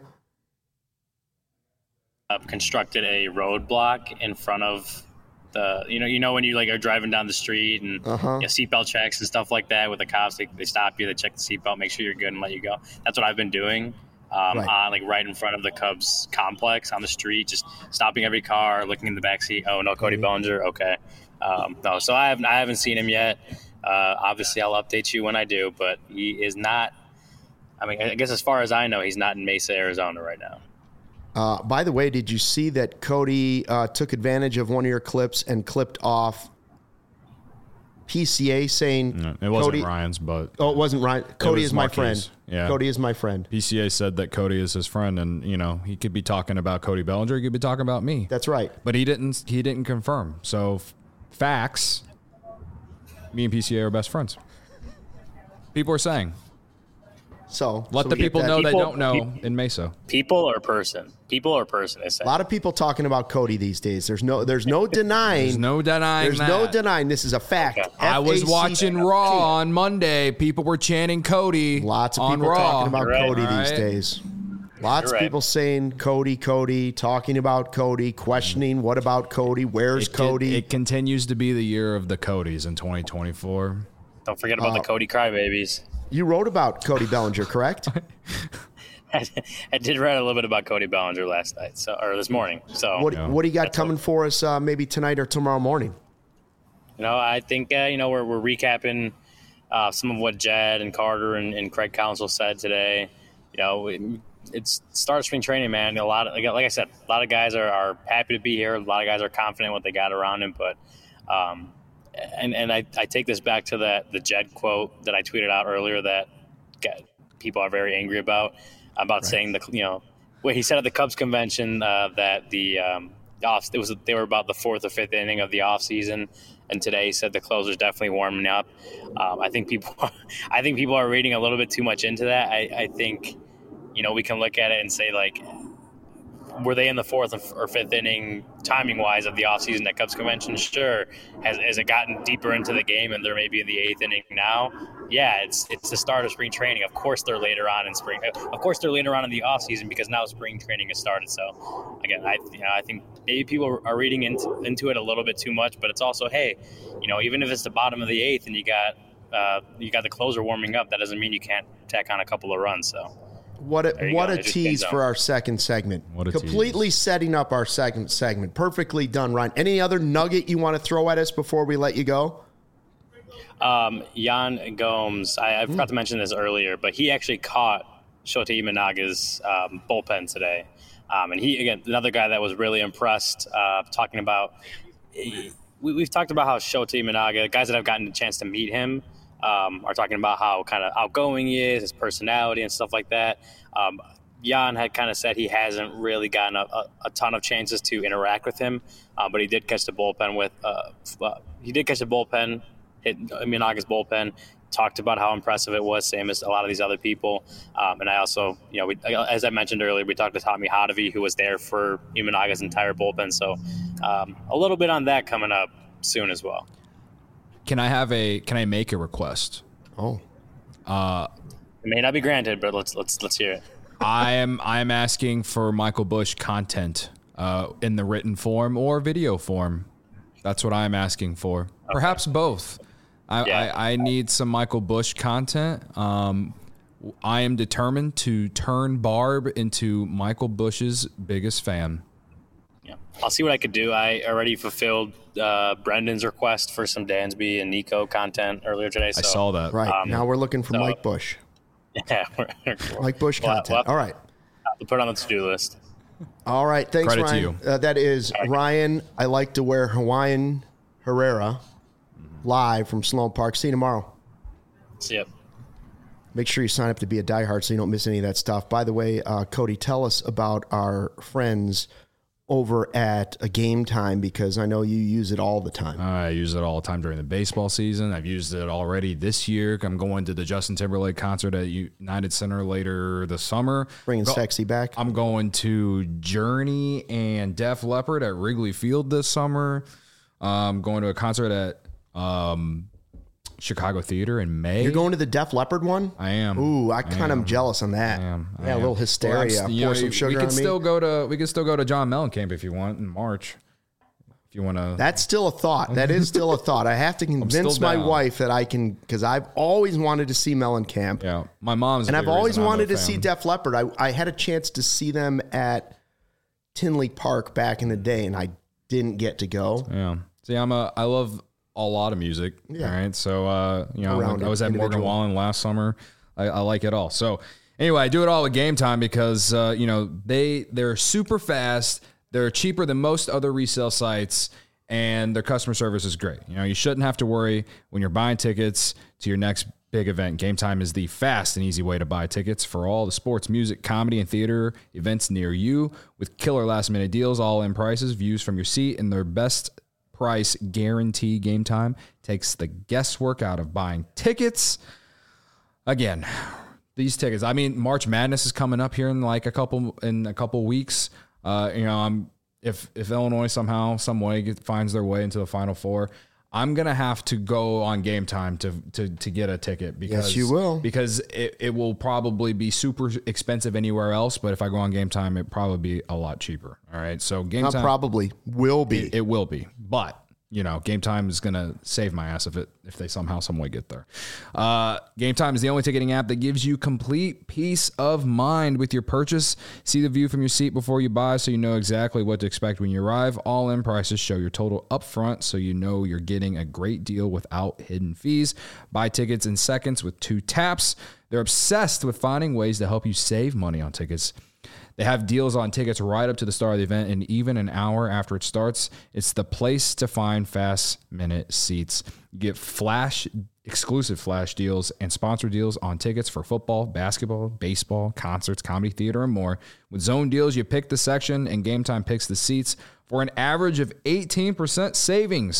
Constructed a roadblock in front of the, when you are driving down the street and seatbelt checks and stuff like that with the cops, they stop you, they check the seatbelt, make sure you're good and let you go. That's what I've been doing on right in front of the Cubs complex on the street, just stopping every car, looking in the back seat. Oh no, Cody Bellinger. Okay. No, so I haven't seen him yet. Obviously I'll update you when I do, but he is not, I guess as far as I know, he's not in Mesa, Arizona right now. By the way, did you see that Cody took advantage of one of your clips and clipped off PCA saying... No, it wasn't Cody, Ryan's, but... Oh, it wasn't Ryan. Cody is my friend. Yeah. Cody is my friend. PCA said that Cody is his friend, and, he could be talking about Cody Bellinger. He could be talking about me. That's right. But he didn't confirm. So, facts, me and PCA are best friends. People are saying... So let the people know they don't know in Mesa. People or person? People or person? A lot of people talking about Cody these days. There's no denying. There's no denying. This is a fact. Okay. I was watching Raw on Monday. People were chanting Cody. Lots of people talking about Cody these days. Lots of people saying Cody, talking about Cody, questioning what about Cody? Where's Cody? It continues to be the year of the Codys in 2024. Don't forget about the Cody crybabies. You wrote about Cody Bellinger, correct? I did write a little bit about Cody Bellinger last night, or this morning. So what do you got coming for us maybe tonight or tomorrow morning? I think we're recapping some of what Jed and Carter and Craig Counsell said today. It's start spring training, man. Like I said, a lot of guys are happy to be here. A lot of guys are confident in what they got around him, but. And I take this back to the Jed quote that I tweeted out earlier that people are very angry about saying what he said at the Cubs convention that they were about the fourth or fifth inning of the off season, and today he said the closer's definitely warming up. I think people are reading a little bit too much into that. I think we can look at it and say were they in the 4th or 5th inning timing wise of the offseason at Cubs convention? Sure. Has it gotten deeper into the game and they're maybe in the 8th inning now? Yeah, it's the start of spring training. Of course they're later on in spring. Of course they're later on in the offseason because now spring training has started. So again, I think maybe people are reading into it a little bit too much, but it's also, hey, even if it's the bottom of the 8th and you got the closer warming up, that doesn't mean you can't tack on a couple of runs. So what a tease for our second segment. Completely setting up our second segment. Perfectly done, Ryan. Any other nugget you want to throw at us before we let you go? Yan Gomes, I forgot to mention this earlier, but he actually caught Shota Imanaga's bullpen today. And he, again, another guy that was really impressed, talking about we've talked about how Shota Imanaga, guys that have gotten a chance to meet him, are talking about how kind of outgoing he is, his personality and stuff like that. Jan had kind of said he hasn't really gotten a ton of chances to interact with him, but he did catch the bullpen hit Imanaga's bullpen, talked about how impressive it was, same as a lot of these other people. And I also, as I mentioned earlier, we talked to Tommy Hotovy, who was there for Imanaga's entire bullpen. So a little bit on that coming up soon as well. Can I make a request? Oh. It may not be granted, but let's hear it. I am asking for Michael Busch content in the written form or video form. That's what I'm asking for. Okay. Perhaps both. I need some Michael Busch content. I am determined to turn Barb into Michael Busch's biggest fan. Yeah, I'll see what I could do. I already fulfilled Brendan's request for some Dansby and Nico content earlier today. So, I saw that. Right. Now we're looking for Mike Busch. Yeah. Mike Busch content. All right. I'll put it on the to-do list. All right. Thanks, Credit Ryan. to you. That is Ryan. I like to wear Hawaiian Herrera live from Sloan Park. See you tomorrow. See ya. Make sure you sign up to be a diehard so you don't miss any of that stuff. By the way, Cody, tell us about our friends over at a Game Time, because I know you use it all the time. I use it all the time during the baseball season. I've used it already this year. I'm going to the Justin Timberlake concert at United Center later this summer. Bringing Sexy back. I'm going to Journey and Def Leppard at Wrigley Field this summer. I'm going to a concert at Chicago Theater in May. You're going to the Def Leppard one? I am. Ooh, I kind of am jealous on that. I am. A little hysteria. Pour some sugar on me. We could still go to John Mellencamp if you want in March. If you want to. That's still a thought. That is still a thought. I have to convince my wife that I can, because I've always wanted to see Mellencamp. Yeah, my mom's. And I've always wanted to see Def Leppard. I had a chance to see them at Tinley Park back in the day, and I didn't get to go. Yeah. See, I love a lot of music. Yeah. All right. So, I was at Morgan Wallen last summer. I like it all. So anyway, I do it all at Game Time because, they're super fast. They're cheaper than most other resale sites, and their customer service is great. You shouldn't have to worry when you're buying tickets to your next big event. Game Time is the fast and easy way to buy tickets for all the sports, music, comedy, and theater events near you with killer last-minute deals, all-in prices, views from your seat, and their best price guarantee. Game Time takes the guesswork out of buying tickets. Again, these tickets. I mean, March Madness is coming up here in a couple weeks. If Illinois somehow, some way finds their way into the Final Four, I'm gonna have to go on Game Time to get a ticket because yes, you will, because it will probably be super expensive anywhere else. But if I go on Game Time, it probably be a lot cheaper. All right, so Game Time probably will be. It will be, but Game Time is gonna save my ass if they somehow, some way get there. Game Time is the only ticketing app that gives you complete peace of mind with your purchase. See the view from your seat before you buy, so you know exactly what to expect when you arrive. All-in prices show your total up front, so you know you're getting a great deal without hidden fees. Buy tickets in seconds with 2 taps. They're obsessed with finding ways to help you save money on tickets. They have deals on tickets right up to the start of the event, and even an hour after it starts. It's the place to find fast-minute seats. You get exclusive flash deals and sponsor deals on tickets for football, basketball, baseball, concerts, comedy, theater, and more. With zone deals, you pick the section, and Game Time picks the seats for an average of 18% savings.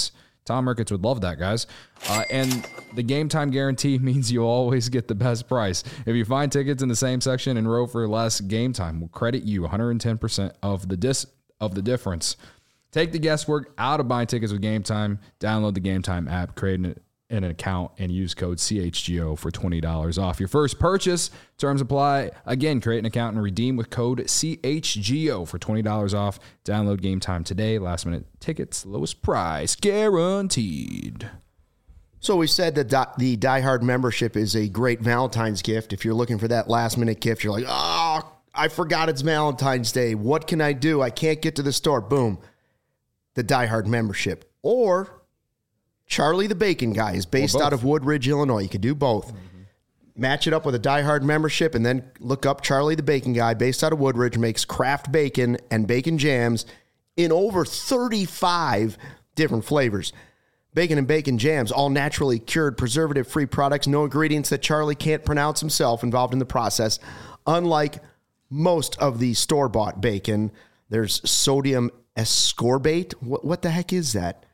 Tom Ricketts would love that, guys. And the game time guarantee means you always get the best price. If you find tickets in the same section and row for less, Game Time will credit you 110% of the difference. Take the guesswork out of buying tickets with Game Time. Download the Game Time app, create an account, and use code CHGO for $20 off your first purchase. Terms apply. Again, create an account and redeem with code CHGO for $20 off. Download Game Time today. Last minute tickets, lowest price guaranteed. So we said that the Die Hard membership is a great Valentine's gift. If you're looking for that last minute gift, you're like, oh, I forgot it's Valentine's Day. What can I do? I can't get to the store. Boom. The Die Hard membership. Or Charlie the Bacon Guy is based out of Woodridge, Illinois. You can do both. Match it up with a Die Hard membership and then look up Charlie the Bacon Guy based out of Woodridge, makes craft bacon and bacon jams in over 35 different flavors. Bacon and bacon jams, all naturally cured, preservative-free products, no ingredients that Charlie can't pronounce himself involved in the process. Unlike most of the store-bought bacon, there's sodium ascorbate. What the heck is that?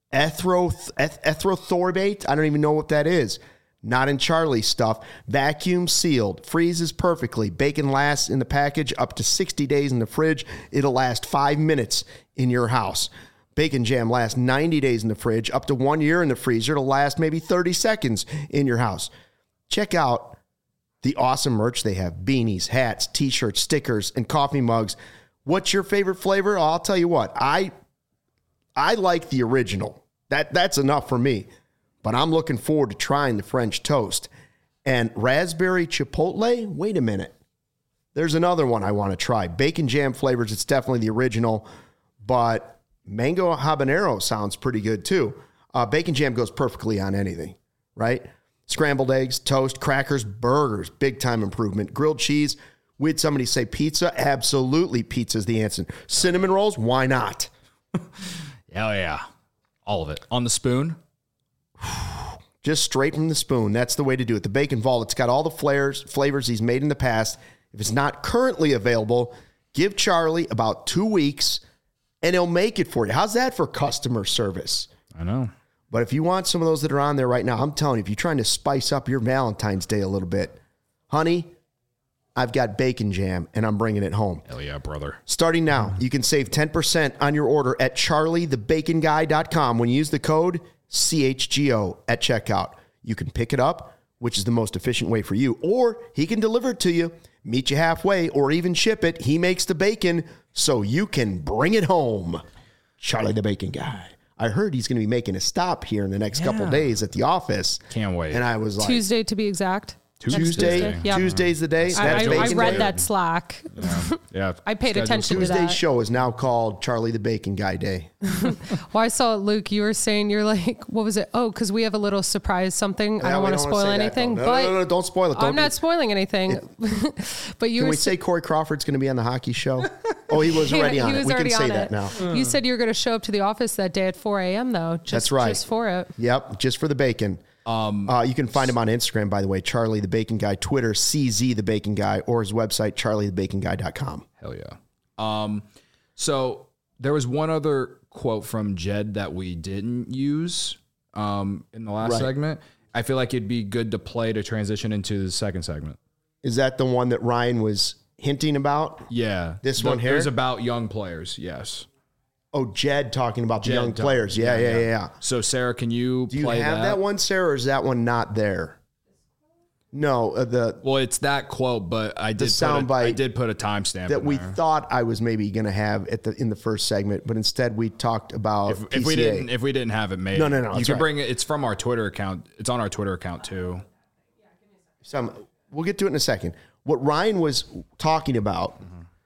Erythrosorbate? I don't even know what that is. Not in Charlie's stuff. Vacuum sealed. Freezes perfectly. Bacon lasts in the package up to 60 days in the fridge. It'll last 5 minutes in your house. Bacon jam lasts 90 days in the fridge, up to 1 year in the freezer. It'll last maybe 30 seconds in your house. Check out the awesome merch they have. Beanies, hats, t-shirts, stickers, and coffee mugs. What's your favorite flavor? I'll tell you what. I like the original. That's enough for me. But I'm looking forward to trying the French toast. And raspberry chipotle? Wait a minute. There's another one I want to try. Bacon jam flavors, it's definitely the original. But mango habanero sounds pretty good too. Bacon jam goes perfectly on anything, right? Scrambled eggs, toast, crackers, burgers, big time improvement. Grilled cheese. We had somebody say pizza. Absolutely, pizza's the answer. Cinnamon rolls, why not? Hell yeah. All of it. On the spoon? Just straight from the spoon. That's the way to do it. The Bacon Vault, it's got all the flavors he's made in the past. If it's not currently available, give Charlie about 2 weeks, and he'll make it for you. How's that for customer service? I know. But if you want some of those that are on there right now, I'm telling you, if you're trying to spice up your Valentine's Day a little bit, honey, I've got bacon jam, and I'm bringing it home. Hell yeah, brother. Starting now, you can save 10% on your order at charliethebaconguy.com when you use the code CHGO at checkout. You can pick it up, which is the most efficient way for you, or he can deliver it to you, meet you halfway, or even ship it. He makes the bacon so you can bring it home. Charlie the Bacon Guy. I heard he's going to be making a stop here in the next couple days at the office. Can't wait. And I was like... Tuesday, to be exact. Tuesday. Yep. Tuesday's the day. I read that Slack. Yeah. I paid attention to that. Tuesday's show is now called Charlie the Bacon Guy Day. Well, I saw it, Luke. You were saying, you're like, what was it? Oh, because we have a little surprise something. I don't want to spoil anything. No, don't spoil it. I'm not spoiling anything. But you Can were we say Corey Crawford's going to be on the hockey show? Oh, he was already on it. We can say that now. You said you were going to show up to the office that day at 4 a.m. though. That's right. Just for it. Yep, just for the bacon. You can find him on Instagram, by the way, Charlie the Bacon Guy, Twitter, CZ the Bacon Guy, or his website, charliethebaconguy.com. Hell yeah. So there was one other quote from Jed that we didn't use in the last segment. I feel like it'd be good to play to transition into the second segment. Is that the one that Ryan was hinting about? Yeah. This one here? It was about young players, yes. Oh, Jed talking about the young players. Yeah. So, Sarah, can you play that? Do you have that one, Sarah, or is that one not there? No. Well, it's that quote, but I did put a timestamp that we thought I was maybe going to have in the first segment, but instead we talked about if we didn't have it made. No. You can bring it. It's from our Twitter account. It's on our Twitter account too. We'll get to it in a second. What Ryan was talking about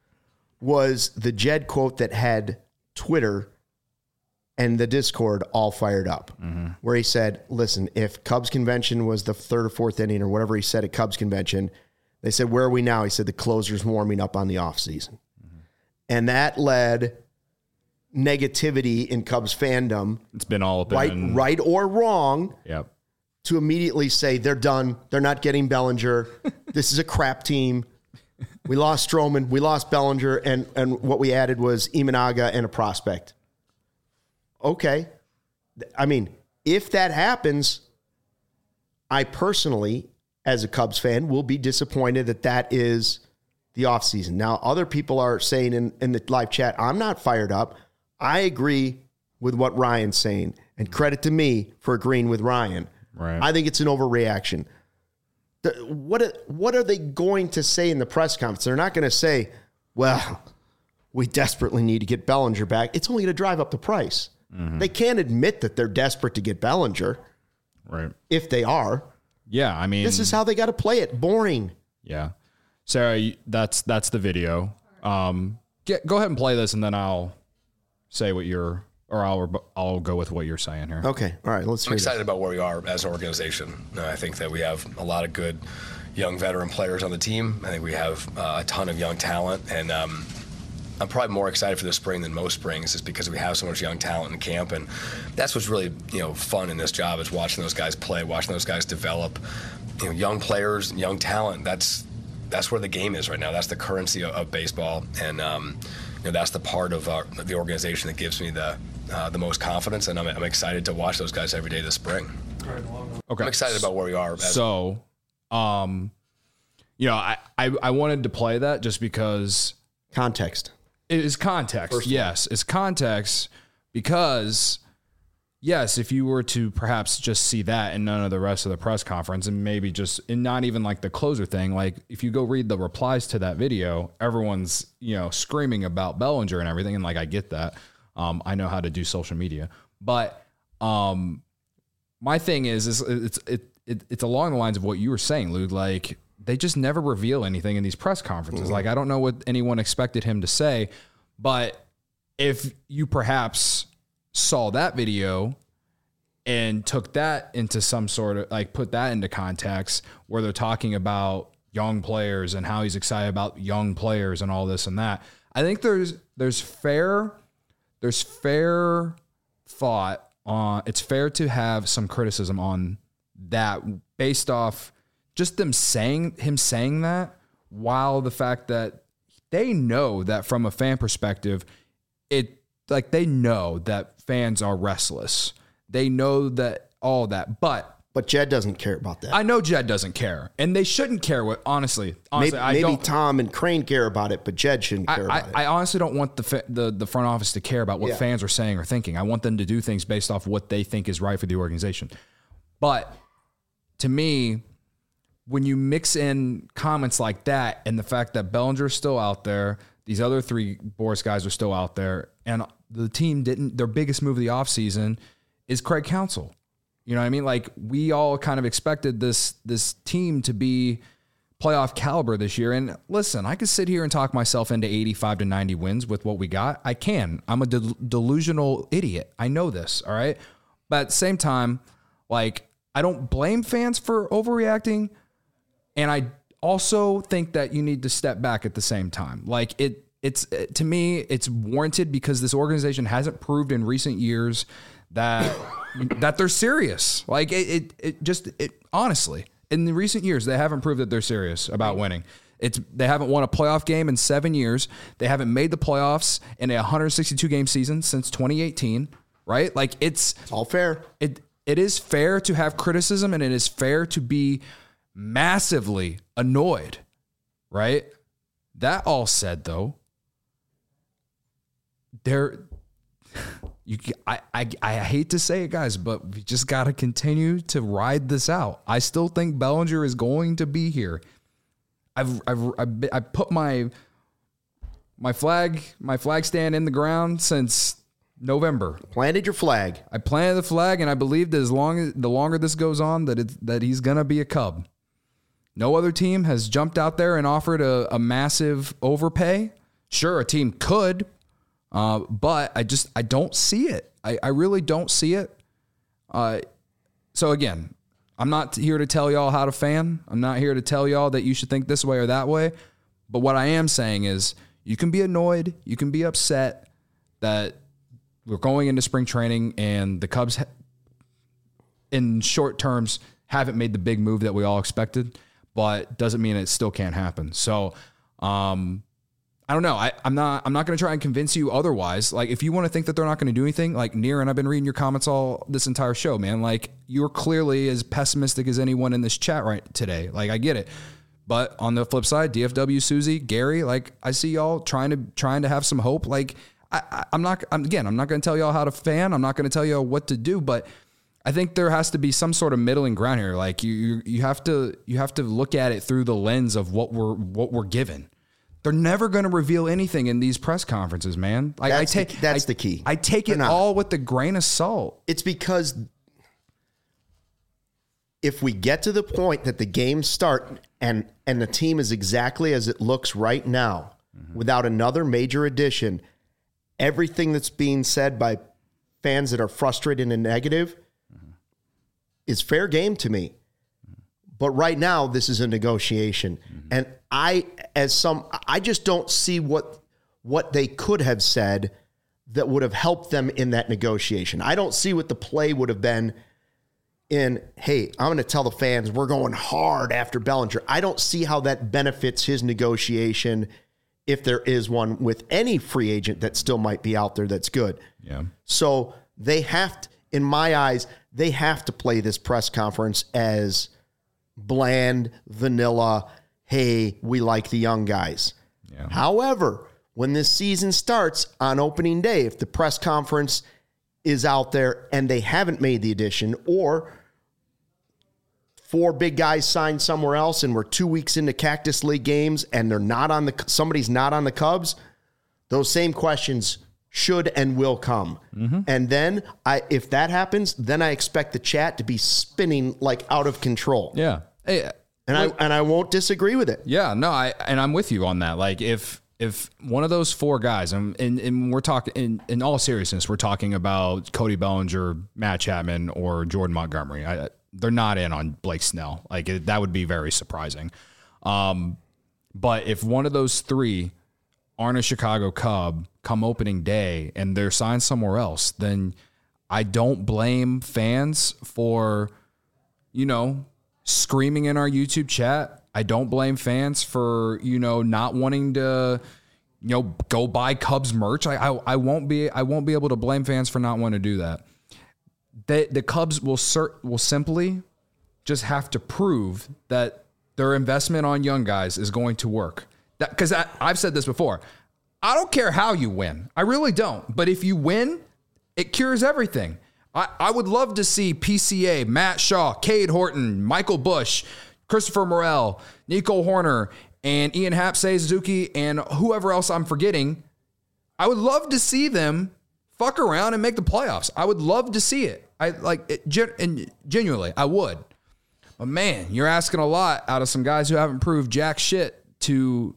was the Jed quote that had Twitter and the Discord all fired up, where he said, listen, if Cubs convention was the third or fourth inning or whatever he said at Cubs convention, they said, where are we now? He said, the closer's warming up on the offseason. And that led negativity in Cubs fandom. It's been all up right or wrong. Yep. To immediately say they're done. They're not getting Bellinger. This is a crap team. We lost Stroman, we lost Bellinger, and what we added was Imanaga and a prospect. Okay. I mean, if that happens, I personally, as a Cubs fan, will be disappointed that is the offseason. Now, other people are saying in the live chat, I'm not fired up. I agree with what Ryan's saying, and credit to me for agreeing with Ryan. Right. I think it's an overreaction. What are they going to say in the press conference? They're not going to say, well, we desperately need to get Bellinger back. It's only going to drive up the price. Mm-hmm. They can't admit that they're desperate to get Bellinger. Right. If they are. Yeah, I mean. This is how they got to play it. Boring. Yeah. Sarah, that's the video. Go ahead and play this, and then I'll say what you're, or I'll go with what you're saying here. Okay. All right. Let's hear I'm excited about where we are as an organization. I think that we have a lot of good young veteran players on the team. I think we have a ton of young talent, and I'm probably more excited for this spring than most springs, just because we have so much young talent in camp, and that's what's really fun in this job, is watching those guys play, watching those guys develop. Young players, young talent. That's where the game is right now. That's the currency of baseball, and that's the part of the organization that gives me the most confidence, and I'm excited to watch those guys every day this spring. Okay. I'm excited about where we are. I wanted to play that just because context. It is context. Yes, it's context because, yes, if you were to perhaps just see that and none of the rest of the press conference, and maybe and not even like the closer thing, like if you go read the replies to that video, everyone's, screaming about Bellinger and everything. And like, I get that. I know how to do social media, but my thing is it's along the lines of what you were saying, Lou. Like, they just never reveal anything in these press conferences. Mm-hmm. Like, I don't know what anyone expected him to say, but if you perhaps saw that video and took that into some sort of, like, put that into context where they're talking about young players and how he's excited about young players and all this and that, I think there's fair thought on, it's fair to have some criticism on that based off just him saying that, while the fact that they know that from a fan perspective, they know that fans are restless. They know that all that, but Jed doesn't care about that. I know Jed doesn't care, and they shouldn't care. Honestly, maybe Tom and Crane care about it, but Jed shouldn't care about it. I honestly don't want the front office to care about what fans are saying or thinking. I want them to do things based off what they think is right for the organization. But to me, when you mix in comments like that and the fact that Bellinger is still out there, these other three Boris guys are still out there, and the team their biggest move of the offseason is Craig Counsell. You know what I mean? Like, we all kind of expected this team to be playoff caliber this year. And listen, I could sit here and talk myself into 85 to 90 wins with what we got. I can. I'm a delusional idiot. I know this, all right? But at the same time, like, I don't blame fans for overreacting, and I also think that you need to step back at the same time. Like, to me, it's warranted because this organization hasn't proved in recent years that they're serious. Like, honestly, in the recent years, they haven't proved that they're serious about winning. They haven't won a playoff game in 7 years. They haven't made the playoffs in a 162 game season since 2018, right? Like, it's all fair. It is fair to have criticism, and it is fair to be massively annoyed, right? That all said, though, I hate to say it, guys, but we just got to continue to ride this out. I still think Bellinger is going to be here. I put my flag stand in the ground since November. Planted your flag. I planted the flag, and I believe that the longer this goes on, that he's gonna be a Cub. No other team has jumped out there and offered a massive overpay. Sure, a team could, but I don't see it. I really don't see it. So again, I'm not here to tell y'all how to fan. I'm not here to tell y'all that you should think this way or that way. But what I am saying is, you can be annoyed, you can be upset that we're going into spring training and the Cubs, in short terms, haven't made the big move that we all expected, but doesn't mean it still can't happen. So I I don't know. I'm not going to try and convince you otherwise. Like, if you want to think that they're not going to do anything, like Near, and I've been reading your comments all this entire show, man. Like, you're clearly as pessimistic as anyone in this chat right today. Like, I get it. But on the flip side, DFW, Susie, Gary, like, I see y'all trying to have some hope. Like, I'm not going to tell y'all how to fan. I'm not going to tell y'all what to do, but I think there has to be some sort of middling ground here. Like, you have to look at it through the lens of what we're given. They're never going to reveal anything in these press conferences, man. Like, that's the key. I take it all with a grain of salt. It's because if we get to the point that the games start and the team is exactly as it looks right now, without another major addition, everything that's being said by fans that are frustrated and negative is fair game to me. But right now, this is a negotiation. And I just don't see what they could have said that would have helped them in that negotiation. I don't see what the play would have been in, hey, I'm going to tell the fans we're going hard after Bellinger. I don't see how that benefits his negotiation, if there is one, with any free agent that still might be out there that's good. Yeah. So they have to, in my eyes, they have to play this press conference as bland, vanilla, hey, we like the young guys. Yeah. However, when this season starts on opening day, if the press conference is out there and they haven't made the addition, or 4 big guys signed somewhere else and we're 2 weeks into Cactus League games and somebody's not on the Cubs, those same questions should and will come. And then if that happens, then I expect the chat to be spinning like out of control. Yeah. Hey, and I won't disagree with it. Yeah, no, I'm with you on that. Like, if one of those 4 guys, and we're talking in all seriousness, we're talking about Cody Bellinger, Matt Chapman, or Jordan Montgomery. They're not in on Blake Snell. Like, that would be very surprising. But if one of those 3 aren't a Chicago Cub come opening day and they're signed somewhere else, then I don't blame fans for, screaming in our YouTube chat. I don't blame fans for, not wanting to, go buy Cubs merch. I won't be able to blame fans for not wanting to do that. The Cubs will simply just have to prove that their investment on young guys is going to work. Because I've said this before. I don't care how you win. I really don't. But if you win, it cures everything. I would love to see PCA, Matt Shaw, Cade Horton, Michael Busch, Christopher Morel, Nico Horner, and Ian Happ, Seiya Suzuki, and whoever else I'm forgetting. I would love to see them fuck around and make the playoffs. I would love to see it. And genuinely, I would. But man, you're asking a lot out of some guys who haven't proved jack shit to,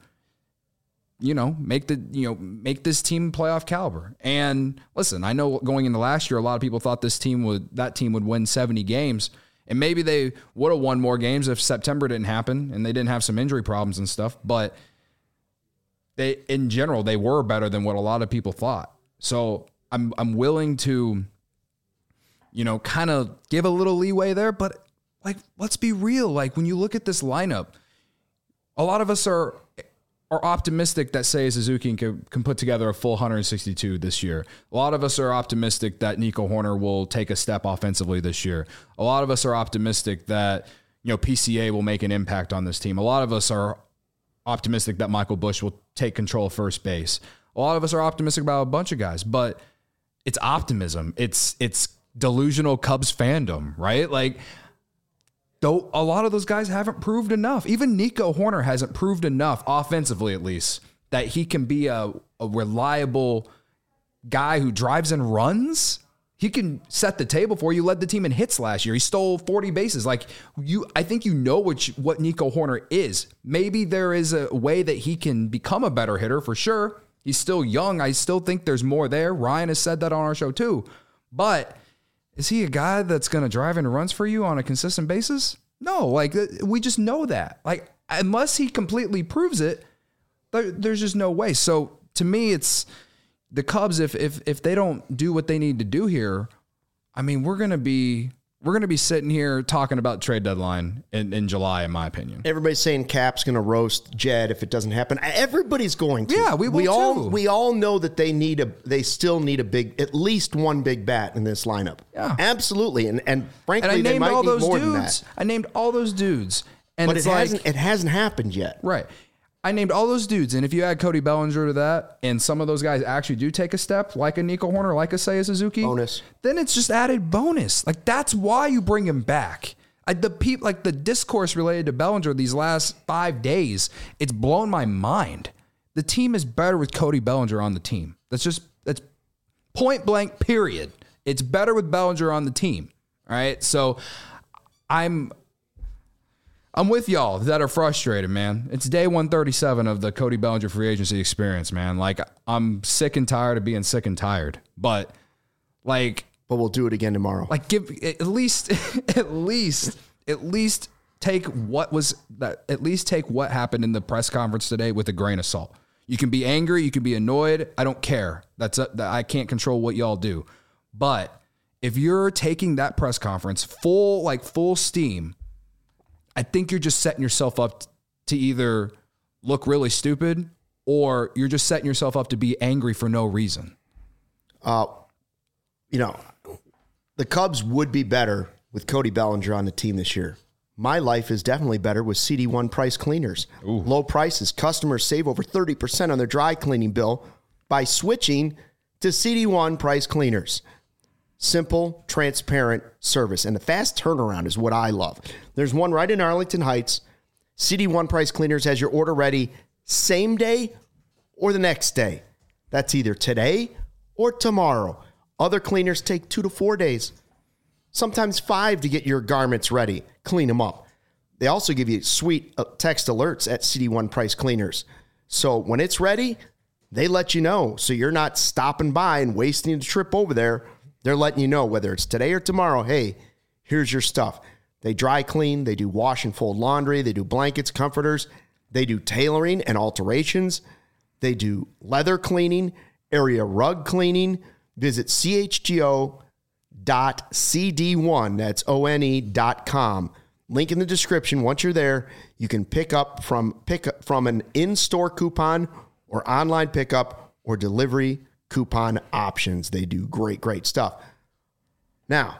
make this team playoff caliber. And listen, I know going into last year, a lot of people thought that team would win 70 games, and maybe they would have won more games if September didn't happen and they didn't have some injury problems and stuff. But in general, they were better than what a lot of people thought. So I'm willing to, kind of give a little leeway there, but like, let's be real. Like, when you look at this lineup, a lot of us are optimistic that Seiya Suzuki can put together a full 162 this year. A lot of us are optimistic that Nico Horner will take a step offensively this year. A lot of us are optimistic that, PCA will make an impact on this team. A lot of us are optimistic that Michael Busch will take control of first base. A lot of us are optimistic about a bunch of guys, but it's optimism. It's delusional Cubs fandom, right? Like, though a lot of those guys haven't proved enough. Even Nico Horner hasn't proved enough, offensively at least, that he can be a reliable guy who drives and runs. He can set the table for you. Led the team in hits last year. He stole 40 bases. I think what Nico Horner is. Maybe there is a way that he can become a better hitter for sure. He's still young. I still think there's more there. Ryan has said that on our show too. But is he a guy that's going to drive in runs for you on a consistent basis? No, we just know that. Unless he completely proves it, there's just no way. So to me, it's the Cubs. If they don't do what they need to do here, I mean, we're gonna be we're going to be sitting here talking about trade deadline in July, in my opinion. Everybody's saying Cap's going to roast Jed if it doesn't happen. Everybody's going to. Yeah, we will too. We all know that they still need at least one big bat in this lineup. Yeah, absolutely. And frankly, I they might all need those more dudes. than that. I named all those dudes, but it hasn't happened yet. Right. I named all those dudes, and if you add Cody Bellinger to that, and some of those guys actually do take a step, like a Nico Horner, like a Seiya Suzuki, bonus, then it's just added bonus. Like, that's why you bring him back. The discourse related to Bellinger these last 5 days, it's blown my mind. The team is better with Cody Bellinger on the team. That's point blank, period. It's better with Bellinger on the team. All right, so I'm with y'all that are frustrated, man. It's day 137 of the Cody Bellinger free agency experience, man. Like, I'm sick and tired of being sick and tired. But we'll do it again tomorrow. Like, give at least take what happened in the press conference today with a grain of salt. You can be angry, you can be annoyed. I don't care. I can't control what y'all do. But if you're taking that press conference full steam, I think you're just setting yourself up to either look really stupid or you're just setting yourself up to be angry for no reason. The Cubs would be better with Cody Bellinger on the team this year. My life is definitely better with CD1 Price Cleaners. Ooh. Low prices. Customers save over 30% on their dry cleaning bill by switching to CD1 Price Cleaners. Simple, transparent service. And the fast turnaround is what I love. There's one right in Arlington Heights. CD1 Price Cleaners has your order ready same day or the next day. That's either today or tomorrow. Other cleaners take 2 to 4 days, sometimes 5 to get your garments ready, clean them up. They also give you sweet text alerts at CD1 Price Cleaners. So when it's ready, they let you know. So you're not stopping by and wasting a trip over there. They're letting you know whether it's today or tomorrow. Hey, here's your stuff. They dry clean. They do wash and fold laundry. They do blankets, comforters. They do tailoring and alterations. They do leather cleaning, area rug cleaning. Visit chgo.cd1, that's one.com. Link in the description. Once you're there, you can pick up from an in-store coupon or online pickup or delivery coupon options. They do great stuff. Now,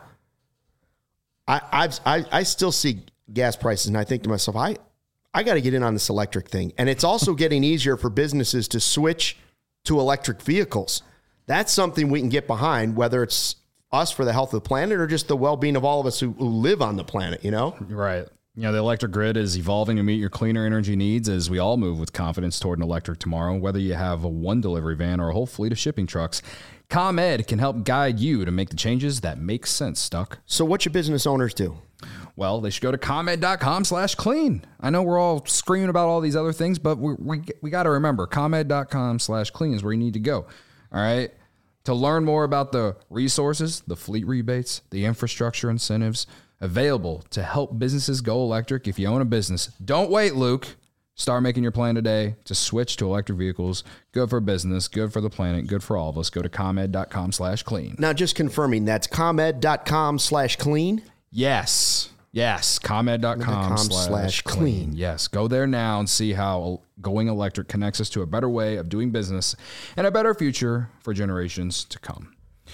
I still see gas prices, and I think to myself, I got to get in on this electric thing. And it's also getting easier for businesses to switch to electric vehicles. That's something we can get behind, whether it's us for the health of the planet or just the well-being of all of us who live on the planet, you know? Right. The electric grid is evolving to meet your cleaner energy needs as we all move with confidence toward an electric tomorrow. Whether you have a one delivery van or a whole fleet of shipping trucks, ComEd can help guide you to make the changes that make sense, Stuck. So what should business owners do? Well, they should go to ComEd.com/clean. I know we're all screaming about all these other things, but we got to remember, ComEd.com/clean is where you need to go. All right. To learn more about the resources, the fleet rebates, the infrastructure incentives available to help businesses go electric. If you own a business, don't wait, Luke. Start making your plan today to switch to electric vehicles. Good for business, good for the planet, good for all of us. Go to ComEd.com/clean. Now, just confirming, that's ComEd.com/clean? Yes. ComEd.com/clean. Yes. Go there now and see how going electric connects us to a better way of doing business and a better future for generations to come.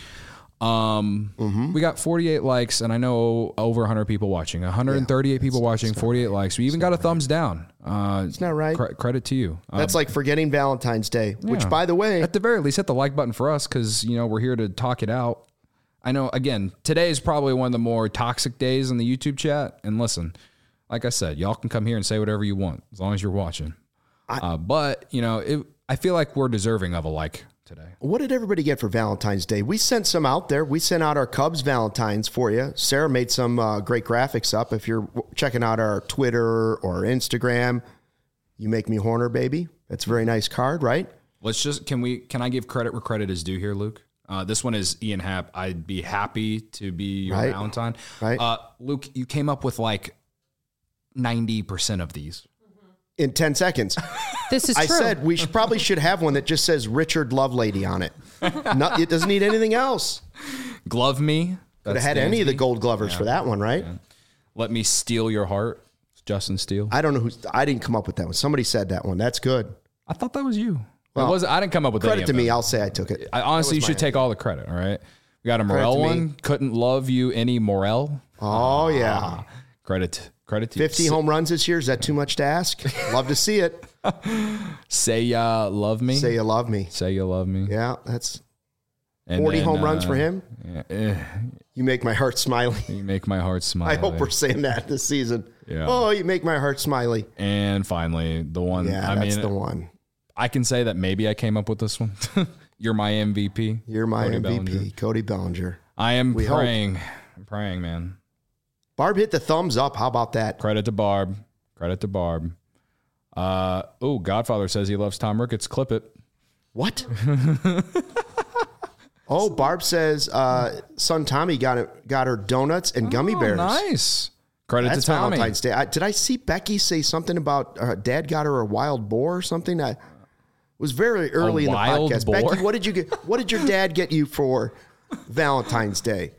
We got 48 likes, and I know over 100 people watching. 138 people watching, 48 likes. We even got a thumbs down. It's not right. Credit to you. That's like forgetting Valentine's Day, which, by the way, at the very least, hit the like button for us because we're here to talk it out. I know, again, today is probably one of the more toxic days in the YouTube chat. And listen, like I said, y'all can come here and say whatever you want as long as you're watching. But I feel like we're deserving of a like today. What did everybody get for Valentine's Day? We sent some out there. We sent out our Cubs Valentines for you. Sarah made some great graphics up. If you're checking out our Twitter or Instagram, you make me Horner, baby. That's a very nice card, right? Can I give credit where credit is due here, Luke? This one is Ian Happ. I'd be happy to be your Valentine. Right. Luke, you came up with like 90% of these. In 10 seconds. This is true. I said we probably should have one that just says Richard Lovelady on it. It doesn't need anything else. Glove me. Could have had any of the Gold Glovers for that one, right? Yeah. Let Me Steal Your Heart. Justin Steele. I don't know I didn't come up with that one. Somebody said that one. That's good. I thought that was you. Well, I didn't come up with credit to me. I'll say I took it. Honestly, you should take all the credit. All right. We got a Morel one. Couldn't love you any Morel. Oh yeah. Credit to 50 home runs this year. Is that too much to ask? Love to see it. Say ya love me. Say you love me. Say you love me. Yeah, that's 40 home runs for him. Yeah. You make my heart smiley. You make my heart smiley. I hope we're saying that this season. Yeah. Oh, you make my heart smiley. And finally, the one. Yeah, that's the one. I can say that maybe I came up with this one. You're my MVP. You're my Cody MVP, Bellinger. Cody Bellinger. I am praying. I'm praying, man. Barb hit the thumbs up. How about that? Credit to Barb. Godfather says he loves Tom Ricketts. Clip it. What? Oh, Barb says son Tommy got her donuts and gummy bears. Nice. Credit to Tommy. Valentine's Day. Did I see Becky say something about Dad got her a wild boar or something? It was very early in the podcast. Boar? Becky, what did you get? What did your dad get you for Valentine's Day?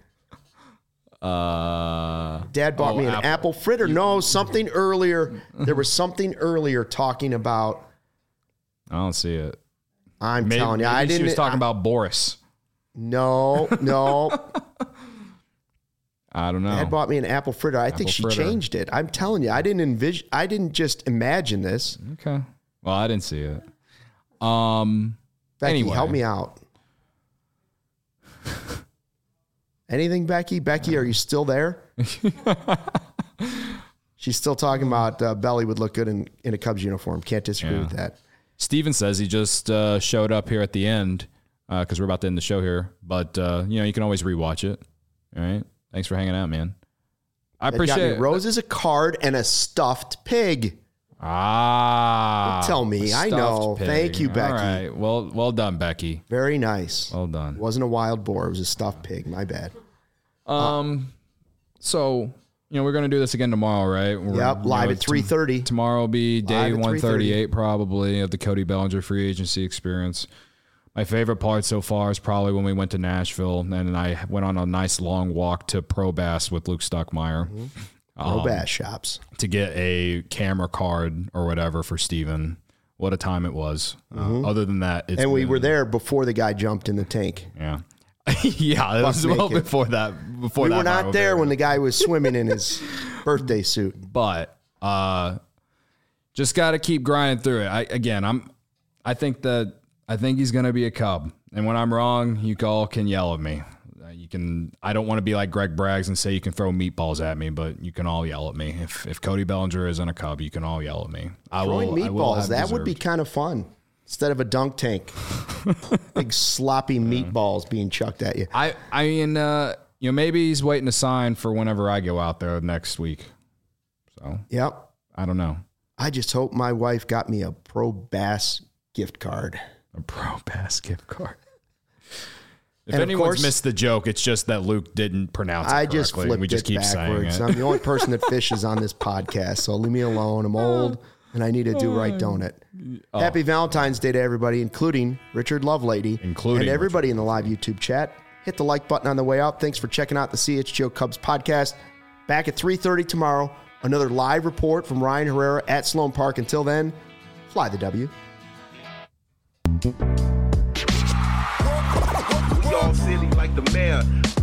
Dad bought me an apple fritter. No, something earlier. There was something earlier talking about. I don't see it. I'm telling you, I didn't. She was talking about Boris. No. I don't know. Dad bought me an apple fritter. I think she changed it. I'm telling you, I didn't just imagine this. Okay. Well, I didn't see it. Becky, anyway. help me out. Anything, Becky? Becky, are you still there? She's still talking about Belly would look good in a Cubs uniform. Can't disagree with that. Steven says he just showed up here at the end because we're about to end the show here. But, you can always rewatch it. All right. Thanks for hanging out, man. I appreciate it. Roses, a card, and a stuffed pig. Ah. Don't tell me. I know. Pig. Thank you, Becky. All right. Well done, Becky. Very nice. Well done. It wasn't a wild boar. It was a stuffed pig. My bad. So, we're going to do this again tomorrow, right? Live at 3:30. Tomorrow will be day 138 probably of the Cody Bellinger free agency experience. My favorite part so far is probably when we went to Nashville and I went on a nice long walk to Pro Bass with Luke Stuckmeyer. Mm-hmm. Pro Bass shops. To get a camera card or whatever for Steven. What a time it was. Other than that, we were there before the guy jumped in the tank. Yeah. Yeah, it was well before that. We were not there when the guy was swimming in his birthday suit. But just got to keep grinding through it. I think he's going to be a Cub. And when I'm wrong, you all can yell at me. I don't want to be like Greg Braggs and say you can throw meatballs at me, but you can all yell at me. If Cody Bellinger isn't a Cub, you can all yell at me. Throwing meatballs, that would be kind of fun. Instead of a dunk tank, big sloppy meatballs being chucked at you. I mean, maybe he's waiting to sign for whenever I go out there next week. So, yep. I don't know. I just hope my wife got me a Pro Bass gift card. A Pro Bass gift card. If anyone's missed the joke, it's just that Luke didn't pronounce it correctly. I just flipped we just keep backwards. saying it. I'm the only person that fishes on this podcast, so leave me alone. I'm old, and I need to do right donut. Happy Valentine's Day to everybody, including Richard Lovelady. And everybody in the live YouTube chat. Hit the like button on the way out. Thanks for checking out the CHGO Cubs podcast. Back at 3:30 tomorrow. Another live report from Ryan Herrera at Sloan Park. Until then, fly the W. We all silly like the mayor.